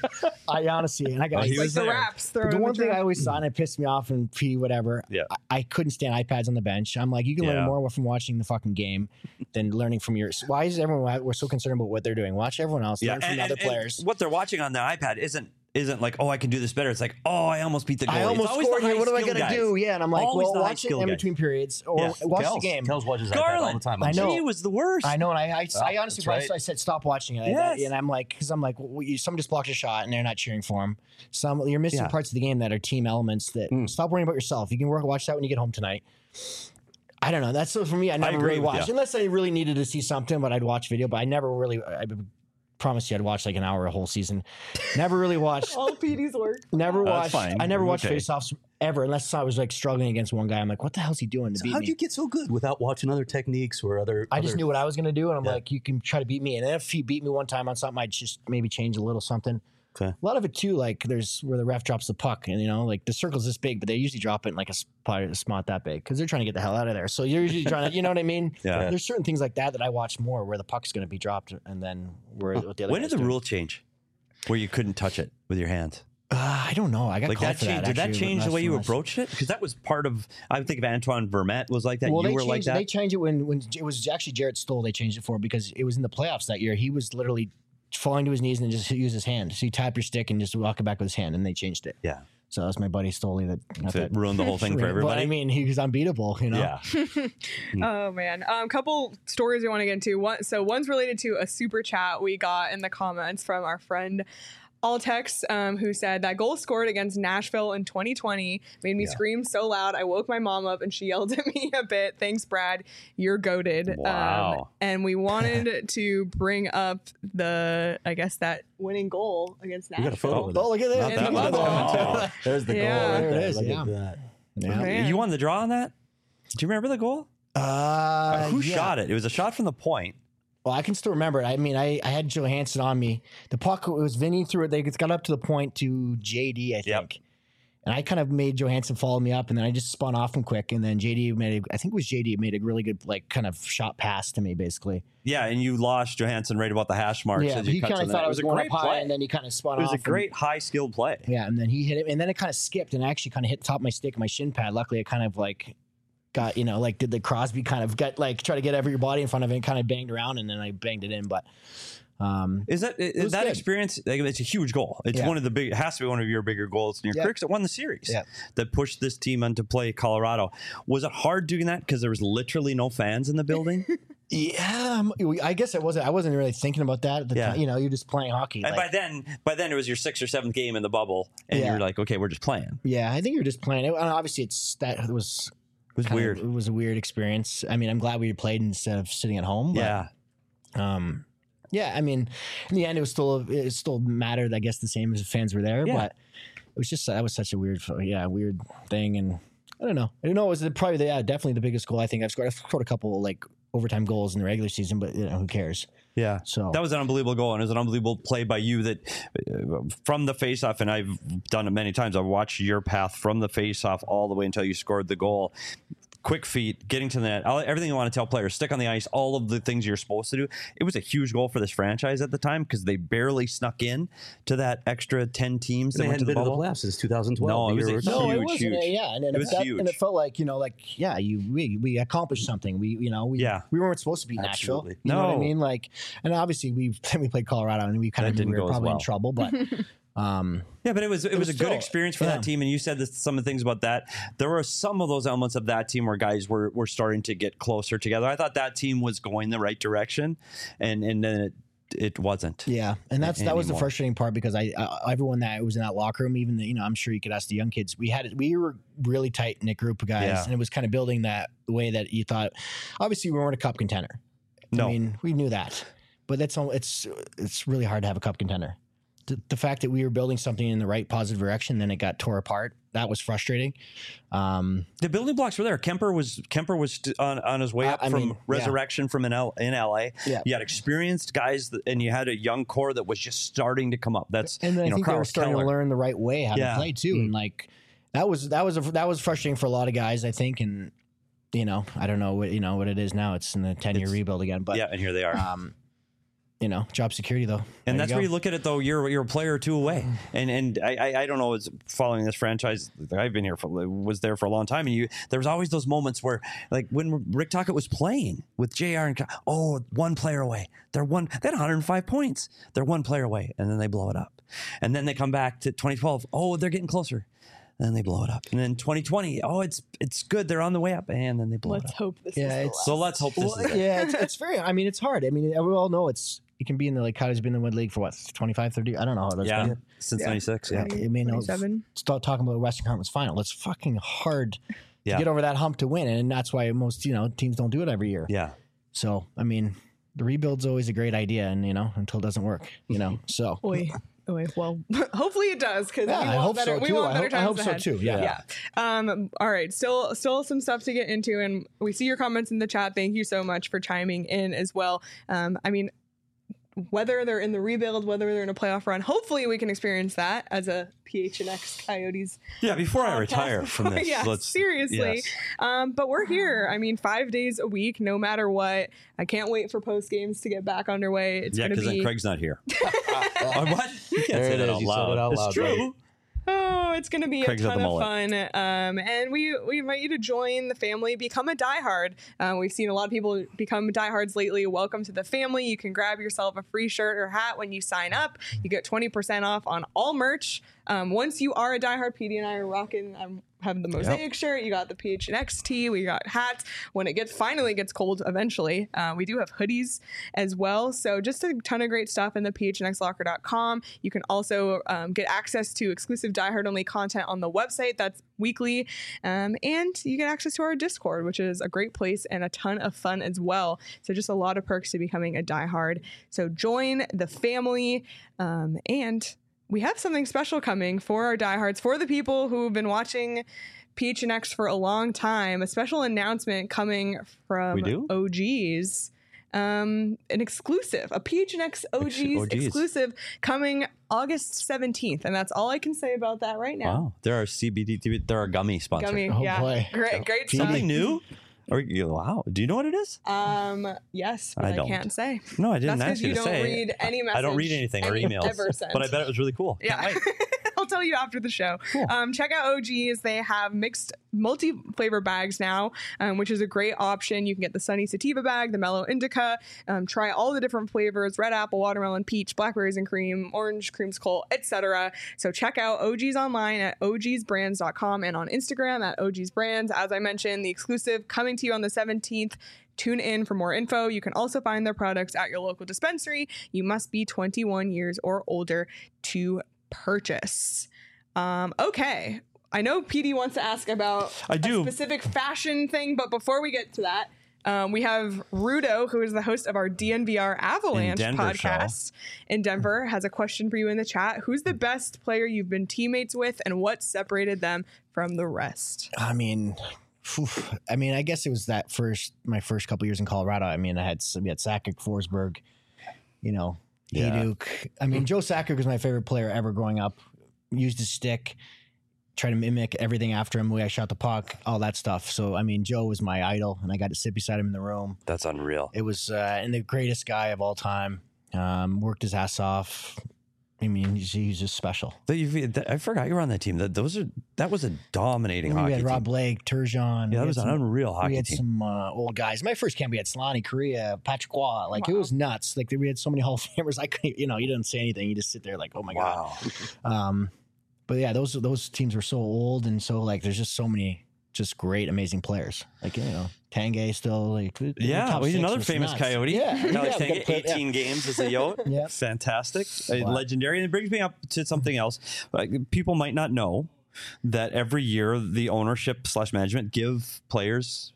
I honestly, and I got Oh, he Like was the there. raps. but thrown the in one thing I trash. always saw and it pissed me off and P whatever. Yeah. I, I couldn't stand iPads on the bench. I'm like, you can Yeah. learn more from watching the fucking game than learning from yours. Why is everyone? We're so concerned about what they're doing. Watch everyone else. learn from and- other and- and players. what they're watching on the iPad isn't isn't like, oh, I can do this better. It's like, oh, I almost beat the goalie. I It's almost always scored the here. What am I high-skill gonna guys. do? Yeah, and I'm like, Always well, the watch it high-skill in guys. between periods or Yeah. watch Kels, the game. Kels watches iPad all the Garland. time. I know. He was the worst. I know, and I, I, I honestly, that's right. so I said stop watching it, Yes. and I'm like, because I'm like, well, you, someone just blocked a shot and they're not cheering for him. Some you're missing Yeah. parts of the game that are team elements. That Mm. stop worrying about yourself. You can work, watch that when you get home tonight. I don't know. That's so for me. I never agree really with watched you. unless I really needed to see something. But I'd watch video. But I never really. I promise you, I'd watch like an hour a whole season. Never really watched. all Petey's work. Never That's watched. fine. I never watched Okay. face-offs ever, unless I was like struggling against one guy. I'm like, what the hell's he doing to So beat how'd me? you get so good without watching other techniques or other? I just other- knew what I was going to do, and I'm Yeah. like, you can try to beat me. And if he beat me one time on something, I'd just maybe change a little something. Okay. A lot of it too, like there's where the ref drops the puck, and you know, like the circle's this big, but they usually drop it in like a spot, a spot that big because they're trying to get the hell out of there. So you're usually trying to, you know what I mean? Yeah. There's certain things like that that I watch more where the puck's going to be dropped, and then where what the other. When guy's did the doing. rule change where you couldn't touch it with your hands? Uh, I don't know. I got Like called that for changed. that. Did that actually, change the last way you time I- approached it? Because that was part of. I think of Antoine Vermette was like that. Well, you they were changed, like that. They changed it when when it was actually Jarrett Stoll. They changed it for because it was in the playoffs that year. He was literally falling to his knees and then just use his hand. So you tap your stick and just walk it back with his hand, and they changed it. Yeah. So that's my buddy Stoley that, not That that ruined the whole thing for But everybody. I mean, he was unbeatable. You know. yeah. Oh man, a um, couple stories we want to get into. One, so one's related to a super chat we got in the comments from our friend Altex, um, who said that goal scored against Nashville in twenty twenty made me Yeah. scream so loud I woke my mom up and she yelled at me a bit. Thanks, Brad. You're goated. Wow. Um, and we wanted to bring up the, I guess that winning goal against We got a Nashville. photo of Oh, look at that. Not that And one. the Oh. There's the Yeah. goal right There it there. is, Look yeah. at that. Yeah. Man. You won the draw on that? Do you remember the goal? Uh, Who yeah. shot it? It was a shot from the point. Well, I can still remember it. I mean, I, I had Johansson on me. The puck, it was Vinny threw it. They got up to the point to J D, I think. Yep. And I kind of made Johansson follow me up, and then I just spun off him quick. And then J D made, a, I think it was J D made a really good, like, kind of shot pass to me, basically. Yeah, and you lost Johansson right about the hash marks. yeah, as you he cut kind to of the thought net. I It was a going great up high, play. and then he kind of spun It off. was a and- great high skilled play. yeah, and then he hit it, and then it kind of skipped and actually kind of hit the top of my stick and my shin pad. Luckily, it kind of like got, you know, like did the Crosby kind of get like try to get every your body in front of it and kind of banged around, and then I banged it in. But Um, Is that is was that good. experience? Like, it's a huge goal. It's Yeah. one of the big. It has to be one of your bigger goals in your Yeah. career because it won the series. Yeah. That pushed this team on to play Colorado. Was it hard doing that because there was literally no fans in the building? yeah, um, I guess it wasn't. I wasn't really thinking about that at the Yeah. time. You know, you're just playing hockey. And like- by then, by then it was your sixth or seventh game in the bubble, and Yeah. you're like, okay, we're just playing. yeah, I think you're just playing. It, and obviously, it's that it was It was kind of- weird. it was a weird experience. I mean, I'm glad we played instead of sitting at home. But, Yeah. Um, yeah, I mean, in the end, it was still it still mattered. I guess the same as the fans were there, Yeah. but it was just that was such a weird, yeah, weird thing, and I don't know. I don't know. It was the, probably the, yeah, definitely the biggest goal I think I've scored. I've scored a couple like overtime goals in the regular season, but you know, who cares? Yeah. So That was an unbelievable goal, and it was an unbelievable play by you that uh, from the faceoff, and I've done it many times. I've watched your path from the faceoff all the way until you scored the goal. Quick feet, getting to the net, all, everything you want to tell players, stick on the ice, all of the things you're supposed to do. It was a huge goal for this franchise at the time because they barely snuck in to that extra ten teams that They went to hadn't the been to the bubble. playoffs since two thousand twelve. No, it the was year a we were no, done. it huge, wasn't. huge. Yeah, and, and It was that, huge. and it felt like you know, like yeah, you we we accomplished something. We you know we Yeah. we weren't supposed to be Nashville. Absolutely. You know what I No. mean? Like, and obviously we we played Colorado and we kind That of knew didn't we were go as probably well. in trouble, but um, Yeah, but it was it, was, was a good still- experience for yeah. that team, and you said this, some of the things about that. There were some of those elements of that team where guys were were starting to get closer together. I thought that team was going the right direction, and and then it it wasn't. yeah, and that's that was the anymore. frustrating part because I, I everyone that was in that locker room, even the, you know, I'm sure you could ask the young kids. We had we were really tight knit group of guys, Yeah. and it was kind of building that way that you thought. Obviously, we weren't a cup contender. No. I mean, we knew that, but that's all. It's it's really hard to have a cup contender. The, the fact that we were building something in the right positive direction, then it got tore apart. That was frustrating. Um, The building blocks were there. Kemper was Kemper was st- on, on his way I- up I from mean, yeah. resurrection from in, L, in L A. Yeah. You had experienced guys, that, and you had a young core that was just starting to come up. That's and then you I know think they were Carlos starting Keller. to learn the right way how Yeah. to play too, and like that was that was a, that was frustrating for a lot of guys, I think. And you know, I don't know what you know what it is now. It's in the ten year It's- rebuild again, but Yeah, and here they are. um, you know, job security though, There And that's you where go. you look at it, though. You're you're a player or two away, and and I I, I don't know. It's following this franchise. I've been here for was there for a long time, and you there was always those moments where, like when Rick Tocchet was playing with J R and Ky- oh, one player away. They're one. They had one hundred five points. They're one player away, and then they blow it up, and then they come back to twenty twelve. Oh, they're getting closer. And then they blow it up. And then twenty twenty, oh, it's it's good. They're on the way up, and then they blow Let's it up. hope this Yeah, is the it's- last. So let's hope this Well, is it. yeah, it's, it's very. I mean, it's hard. I mean, we all know it's. You can be in the like Coyotes been in the Wood League for what twenty-five, thirty I don't know how that's Yeah, been. since Yeah. ninety-six. Yeah. I mean, twenty-seven. start talking about the Western Conference Final. It's fucking hard Yeah. to get over that hump to win, and that's why most you know teams don't do it every year. Yeah. So I mean, the rebuild's always a great idea, and you know until it doesn't work, you know. So Oy. Oy. Well, hopefully it does because Yeah, we I want hope better. so, we too. want I better hope- I times hope so, ahead. too. Yeah. Yeah. Um. All right. Still, still some stuff to get into, and we see your comments in the chat. Thank you so much for chiming in as well. Um. I mean, whether they're in the rebuild, whether they're in a playoff run, hopefully we can experience that as a P H N X Coyotes. Yeah, before I podcast retire from before- this, yeah, let's seriously. yes. Um, but we're here. I mean, five days a week, no matter what. I can't wait for post games to get back underway. It's Yeah, going to because be then Craig's not here. Oh, what? You can't There say it that is. out You said loud. it out it's loud, true. buddy. Oh, it's going to be Craig's a got ton the of mullet. fun. Um, and we, we invite you to join the family, become a diehard. Uh, we've seen a lot of people become diehards lately. Welcome to the family. You can grab yourself a free shirt or hat when you sign up. You get twenty percent off on all merch. Um, once you are a diehard, P D and I are rocking. I'm having the Mosaic shirt. You got the P H N X tee. We got hats. When it gets finally gets cold eventually, uh, we do have hoodies as well. So just a ton of great stuff in the P H N X locker dot com. You can also um, get access to exclusive diehard only content on the website. That's weekly. Um, and you get access to our Discord, which is a great place and a ton of fun as well. So just a lot of perks to becoming a diehard. So join the family. Um, and we have something special coming for our diehards, for the people who've been watching P H N X for a long time. A special announcement coming from We do? O Gs. Um, an exclusive, a P H N X O Gs, O Gs. exclusive coming August seventeenth. And that's all I can say about that right now. Wow, there are C B D. There are gummy sponsors. Gummy, Oh, yeah. boy. Great, great stuff. Something new? Or you- wow, do you know what it is? Um, yes, but I I, don't. can't say. No, I didn't That's ask because you you to don't say. read any message. I don't read anything or any emails, ever sent. but I bet it was really cool. Yeah. I'll tell you after the show. Cool. Um, check out O Gs. They have mixed multi-flavor bags now, um, which is a great option. You can get the Sunny Sativa bag, the Mellow Indica, um, try all the different flavors, red apple, watermelon, peach, blackberries and cream, orange, creamsicle, et cetera. So check out O G's online at O Gs brands dot com and on Instagram at O Gs brands. As I mentioned, the exclusive coming to you on the seventeenth. Tune in for more info. You can also find their products at your local dispensary. You must be twenty-one years or older to purchase. Um, okay. I know P D wants to ask about I do. a specific fashion thing, but before we get to that, um, we have Rudo, who is the host of our D N V R Avalanche In Denver podcast in Denver, has a question for you in the chat. Who's the best player you've been teammates with, and what separated them from the rest? I mean, phew, I mean, I guess it was that first, my first couple years in Colorado. I mean, I had, we had Sakic, Forsberg, you know, Yeah. Hayduk. I mean, Joe Sakic was my favorite player ever growing up. Used his stick, tried to mimic everything after him, the way I shot the puck, all that stuff. So, I mean, Joe was my idol, and I got to sit beside him in the room. That's unreal. It was, uh, and the greatest guy of all time. Um, worked his ass off. I mean, he's, he's just special. That you, that, I forgot you were on that team. That those are that was a dominating We hockey had Rob team. Blake, Yeah, Turgeon. we that had was an some- unreal hockey We had team. some uh, old guys. My first camp, we had Solani, Korea, Patrick Waugh. Like, it Wow. was nuts. Like, we had so many Hall of Famers. I couldn't, you know, you didn't say anything. You just sit there like, oh my Wow. God. Um, but yeah, those those teams were so old. And so, like, there's just so many just great, amazing players. Like, you know, Tangay still. Like, the Yeah, top well, he's six another was famous nuts. Coyote. Yeah. Alex yeah, Tangay, good player, yeah. eighteen games as a Yote. Yeah. Fantastic. Uh, Wow. Legendary. And it brings me up to something else. Like, people might not know that every year the ownership slash management give players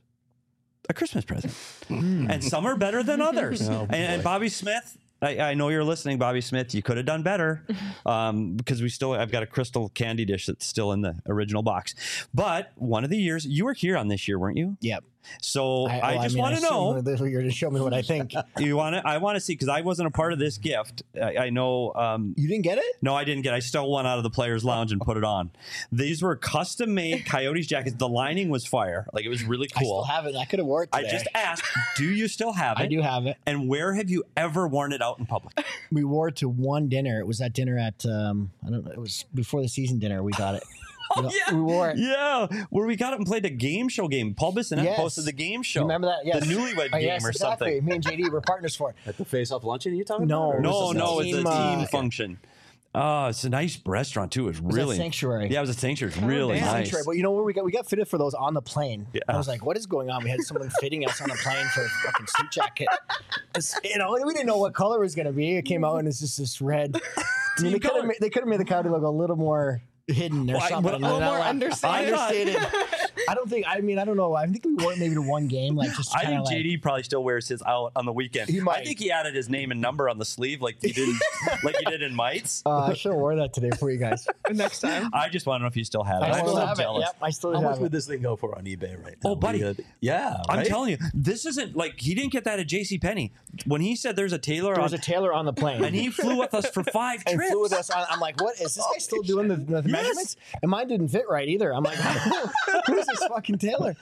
a Christmas present. And some are better than others. Oh, and, and boy. Bobby Smith, I, I know you're listening, Bobby Smith. You could have done better, um, because we still. I've got a crystal candy dish that's still in the original box. But one of the years you were here on this year, weren't you? Yep. So I, well, just mean, want to assume know. that You're to show me what I think. You want to? I want to see, because I wasn't a part of this gift. I, I know. Um, You didn't get it? no, I didn't get. I stole one out of the players' lounge and put it on. These were custom made Coyotes jackets. The lining was fire. Like, it was really I cool. still have it. I could have wore it I today. just asked, do you still have it? I do have it. And where have you ever worn it out in public? We wore it to one dinner. It was that dinner at um I don't know. It was before the season dinner. We got it. Oh, We- yeah. we wore it. Yeah, where we got it and played a game show game. Paul Bissonnette Yes. posted the game show. You remember that? Yes. The Newlywed Oh, game yes, or exactly. something. Me and J D were partners for it. At the face-off luncheon, you talking No. about? or No, was this no, else? it's a Team, team uh, function. Oh, it's a nice restaurant too. It was It was really at Sanctuary. Yeah, it was a sanctuary. It's Oh, really damn. nice. Sanctuary. But you know where we got? We got fitted for those on the plane. Yeah. I was like, what is going on? We had someone fitting us on the plane for a fucking suit jacket. It's, you know, we didn't know what color it was going to be. It came out and it's just this red. I mean, they could color. have made, they could have made the Coyote look a little more hidden or Well, I- something. but- and a then little more I- understated. understated. I don't think. I mean, I don't know. I think we wore it maybe to one game, like just. I kinda think like, J D probably still wears his out on the weekend. He I might. think he added his name and number on the sleeve, like he did, like he did in Mites. Uh, I should have wore that today for you guys. Next time. I just want to know if you still have it. I I'm still so have jealous. it. Yep, I still How have much it. would this thing go for on eBay right now? Oh, buddy. We could- yeah, I'm right? telling you, this isn't like he didn't get that at JCPenney. When he said there's a tailor There on, was a tailor on the plane. and he flew with us for five and trips. flew with us. On, I'm like, what is this guy still doing the, the Yes. measurements? And mine didn't fit right either. I'm like, who is this fucking tailor?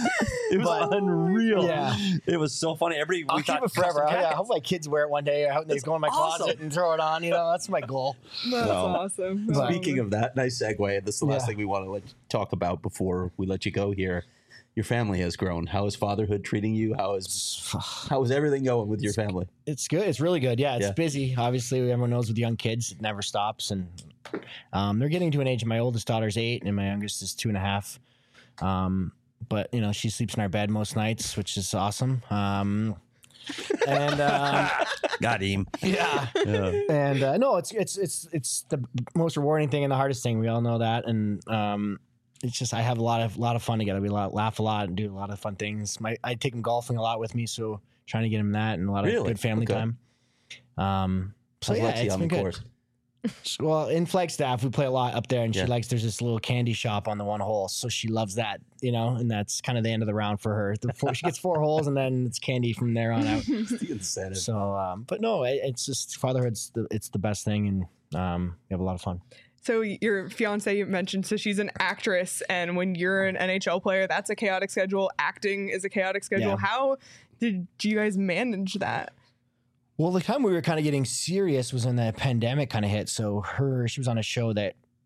It was But- unreal. Yeah. It was so funny. Everybody, we I'll thought keep it forever. custom I, yeah, I jackets. hope my kids wear it one day. I hope they go in my awesome. closet and throw it on. You know, that's my goal. That's No. awesome. But- Speaking of that, nice segue. This is the last Yeah. thing we want to let, talk about before we let you go here. Your family has grown. How is fatherhood treating you? How is how is everything going with your family? It's good. It's really good. Yeah, it's Yeah. busy. Obviously, everyone knows with young kids, it never stops. And um, they're getting to an age. My oldest daughter's eight, and my youngest is two and a half. Um, but you know, she sleeps in our bed most nights, which is awesome. Um, and um, Got him. yeah, Yeah. and uh, no, it's it's it's it's the most rewarding thing and the hardest thing. We all know that, and um, it's just I have a lot of lot of fun together. We lot, laugh a lot and do a lot of fun things. My I take him golfing a lot with me, so trying to get him that and a lot of Really? good family Okay. time. Um, so How's yeah, Lexi it's on been the good. course? Well, in Flagstaff, we play a lot up there, and Yeah. she likes. There's this little candy shop on the one hole, so she loves that, you know. And that's kind of the end of the round for her. The four, she gets four holes, and then it's candy from there on out. It's the incentive. So, um, but no, it, it's just fatherhood's the, it's the best thing, and um, we have a lot of fun. So your fiance you mentioned, so she's an actress, and when you're an N H L player, that's a chaotic schedule. Acting is a chaotic schedule. Yeah. How did you guys manage that? Well, the time we were kind of getting serious was when the pandemic kind of hit. So her, she was on a show that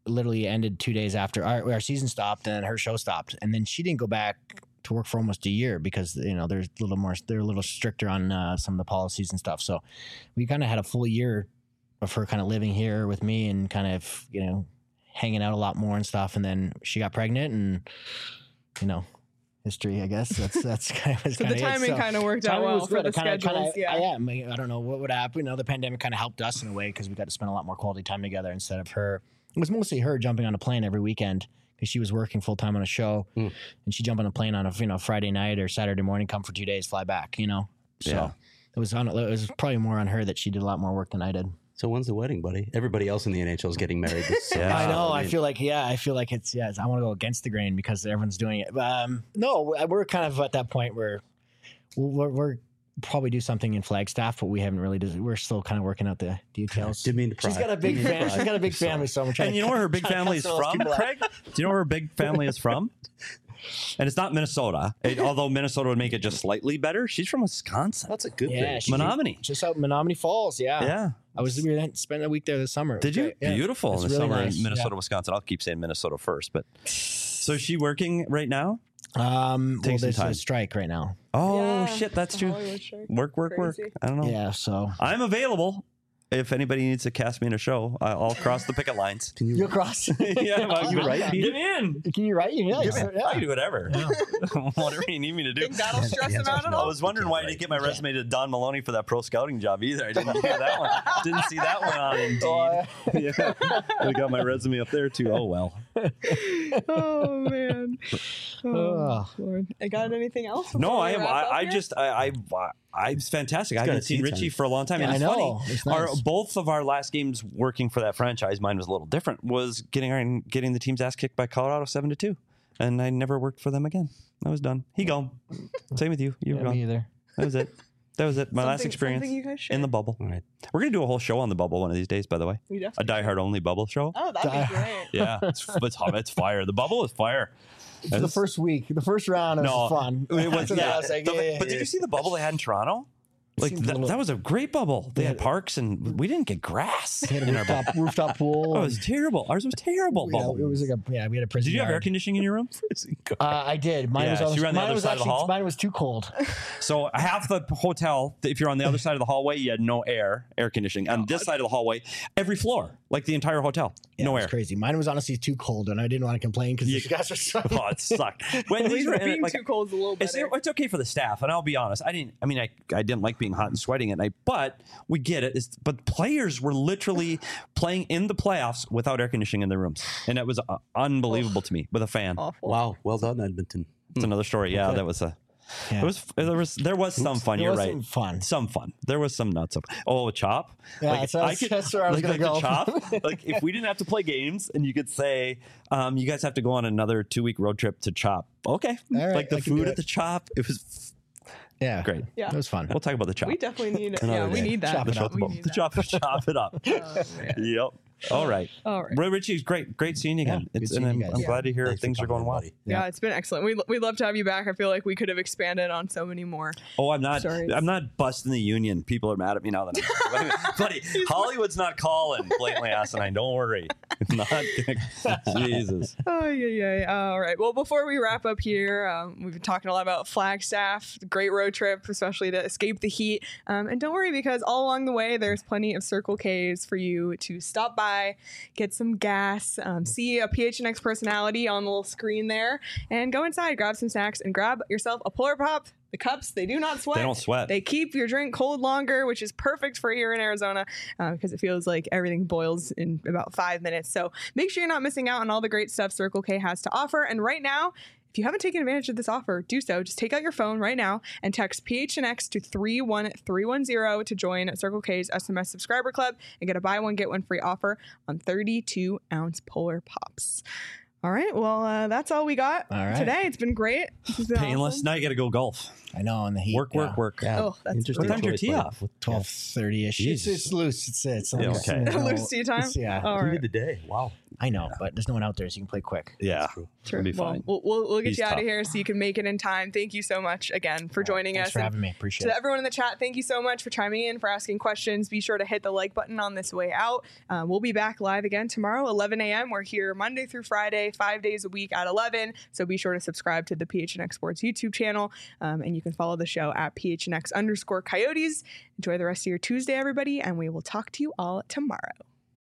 literally ended two days after our, our season stopped and her show stopped. And then she didn't go back to work for almost a year because, you know, there's a little more, they're a little stricter on uh, some of the policies and stuff. So we kind of had a full year of her kind of living here with me and kind of, you know, hanging out a lot more and stuff. And then she got pregnant and, you know, history, I guess. That's that's kind of so the timing kind of worked out well for the kinda, schedules. Kinda, yeah, I am. I don't know what would happen. You know, the pandemic kind of helped us in a way because we got to spend a lot more quality time together instead of her. It was mostly her jumping on a plane every weekend because she was working full time on a show, mm. and she jump on a plane on a you know Friday night or Saturday morning, come for two days, fly back. You know, so Yeah. it was on. It was probably more on her that she did a lot more work than I did. So when's the wedding, buddy? Everybody else in the N H L is getting married. This Yeah. I know. I I mean- feel like, yeah, I feel like it's, yeah, it's, I want to go against the grain because everyone's doing it. Um, no, we're we're kind of at that point where we're, we're probably do something in Flagstaff, but we haven't really, did, we're still kind of working out the details. Didn't mean to She's pry. got a big Didn't mean to family. pry. She's got a big Sorry. family, so I'm trying And to you know where her big trying to family is cut some of those from, people out. Craig? Do you know where her big family is from? And it's not Minnesota. It, although Minnesota would make it just slightly better. She's from Wisconsin. That's a good Yeah, thing. she's Menominee. just out in Menominee Falls. Yeah, Yeah. I was we were spent a week there this summer. It was Did you? great. Yeah. Beautiful It's in the really summer nice. in Minnesota, Yeah. Wisconsin. I'll keep saying Minnesota first, but so is she working right now? Um, well, Take some there's time. a strike right now. Oh Yeah, shit, that's the true. Hollywood strike. Work, work, work. Crazy. I don't know. Yeah, so I'm available. If anybody needs to cast me in a show, I- I'll cross the picket lines. Can you, you're across. yeah, Can you write, Peter? Get me in. Can you write? Yeah, Give me- yeah. I can do whatever. Whatever you need me to do. Think that'll stress Yeah, him out at I all? was wondering why I didn't get my resume to Don Maloney for that pro scouting job either. I didn't hear that one. Didn't see that one on Indeed. yeah, I got my resume up there too. Oh well. Oh man. Oh, Ugh. Lord. I got anything else? No, before I we am. wrap I, up I here? just. I. I. I it's fantastic. I got haven't a seen tea Richie time. for a long time. Yeah, and it's I know. funny. It's Our nice. both of our last games working for that franchise, mine was a little different. Was getting our getting the team's ass kicked by Colorado seven to two, and I never worked for them again. I was done. He gone. Same with you. You were Yeah, me gone. either. That was it. That was it. My last Something- experience something you guys should. in the bubble. All right. We're gonna do a whole show on the bubble one of these days. By the way, We a definitely Die Hard only bubble show. Oh, that'd Die- be great. Yeah, it's it's hot. It's fire. The bubble is fire. For the first week, the first round No, was fun. It was, After that, yeah. I was like, The- yeah, but yeah, did you see the bubble they had in Toronto? Like seems a that, little- that was a great bubble. They had Yeah. parks, and we didn't get grass We had a in our bubble. rooftop, rooftop pool. Oh, it was terrible. Ours was terrible. yeah, Bubble. it was like a yeah. We had a prison. Did you have yard. air conditioning in your room? Uh, I did. Mine Yeah, was so on, you were on the mine other was side of the actually, hall? Mine was too cold. So half the hotel, if you're on the other side of the hallway, you had no air, air conditioning. On this side of the hallway, every floor, like the entire hotel, Yeah, no it was air. crazy. Mine was honestly too cold, and I didn't want to complain because You- these guys are so. Oh, it sucked. When At these least were in it, being like, too cold is a little It's, better. it's okay for the staff, and I'll be honest. I didn't. I mean, I I didn't like being hot and sweating at night, but we get it. It's, but players were literally playing in the playoffs without air conditioning in their rooms, and it was uh, unbelievable to me with a fan. Awful. Wow. Well done, Edmonton. It's another story. Yeah, Okay. that was a. Yeah. It was there was there was some fun. There You're was right. some fun. Some fun. There was some nuts up. Oh, a chop. Yeah, that's- that's- that's where I was like, gonna like go. the chop. Like if we didn't have to play games, and you could say, um, you guys have to go on another two week road trip to chop. Okay. All right, like the I can do food it. at the chop. It was Yeah, great. Yeah. It was fun. We'll talk about the chop. We definitely need it. Another Yeah, we day. need that. Chop the it chop, up. We the need chop, that. chop it up. Oh, man. Yep. All right. All right. Roy Ritchie, great, great seeing you again. Yeah, it's good and seeing I'm, you guys. I'm Yeah. glad to hear Thanks for things are coming going in, well. buddy. Yeah, it's been excellent. We we'd love to have you back. I feel like we could have expanded on so many more. Oh, I'm not. Stories. I'm not busting the union. People are mad at me now that I'm. Buddy, Hollywood's not calling blatantly asinine. Don't worry. Not gonna, Jesus. Oh yeah, yeah. All right. Well, before we wrap up here, um, we've been talking a lot about Flagstaff. Great road trip, especially to escape the heat. Um, and don't worry, because all along the way, there's plenty of Circle K's for you to stop by, get some gas, um, see a P H N X personality on the little screen there, and go inside, grab some snacks, and grab yourself a Polar Pop. The cups, they do not sweat. They don't sweat. They keep your drink cold longer, which is perfect for here in Arizona uh, because it feels like everything boils in about five minutes. So make sure you're not missing out on all the great stuff Circle K has to offer. And right now, if you haven't taken advantage of this offer, do so. Just take out your phone right now and text P H N X to three one three one zero to join Circle K's S M S subscriber club and get a buy one, get one free offer on thirty-two ounce Polar Pops. All right. Well, uh, that's all we got All right. today. It's been great. This has been Painless. awesome. Now you got to go golf. I know, in the heat. Work, work, work. Yeah. Oh, that's Interesting What time's your choice, tee buddy. off? twelve thirty ish. It's, Jesus. it's loose. It's it's Yeah, loose, okay. you know, Loose tea time? it's- Yeah. All You right. did the day. Wow. I know, but there's no one out there, so you can play quick. Yeah, Sure. it'll be Well, fine. we'll, we'll, we'll get He's you out tough. of here so you can make it in time. Thank you so much again for joining Thanks us. for And having me. Appreciate to it. everyone in the chat, thank you so much for chiming in, for asking questions. Be sure to hit the like button on this way out. Um, we'll be back live again tomorrow, eleven a.m. We're here Monday through Friday, five days a week at eleven. So be sure to subscribe to the P H N X Sports YouTube channel, um, and you can follow the show at P H N X underscore Coyotes. Enjoy the rest of your Tuesday, everybody, and we will talk to you all tomorrow.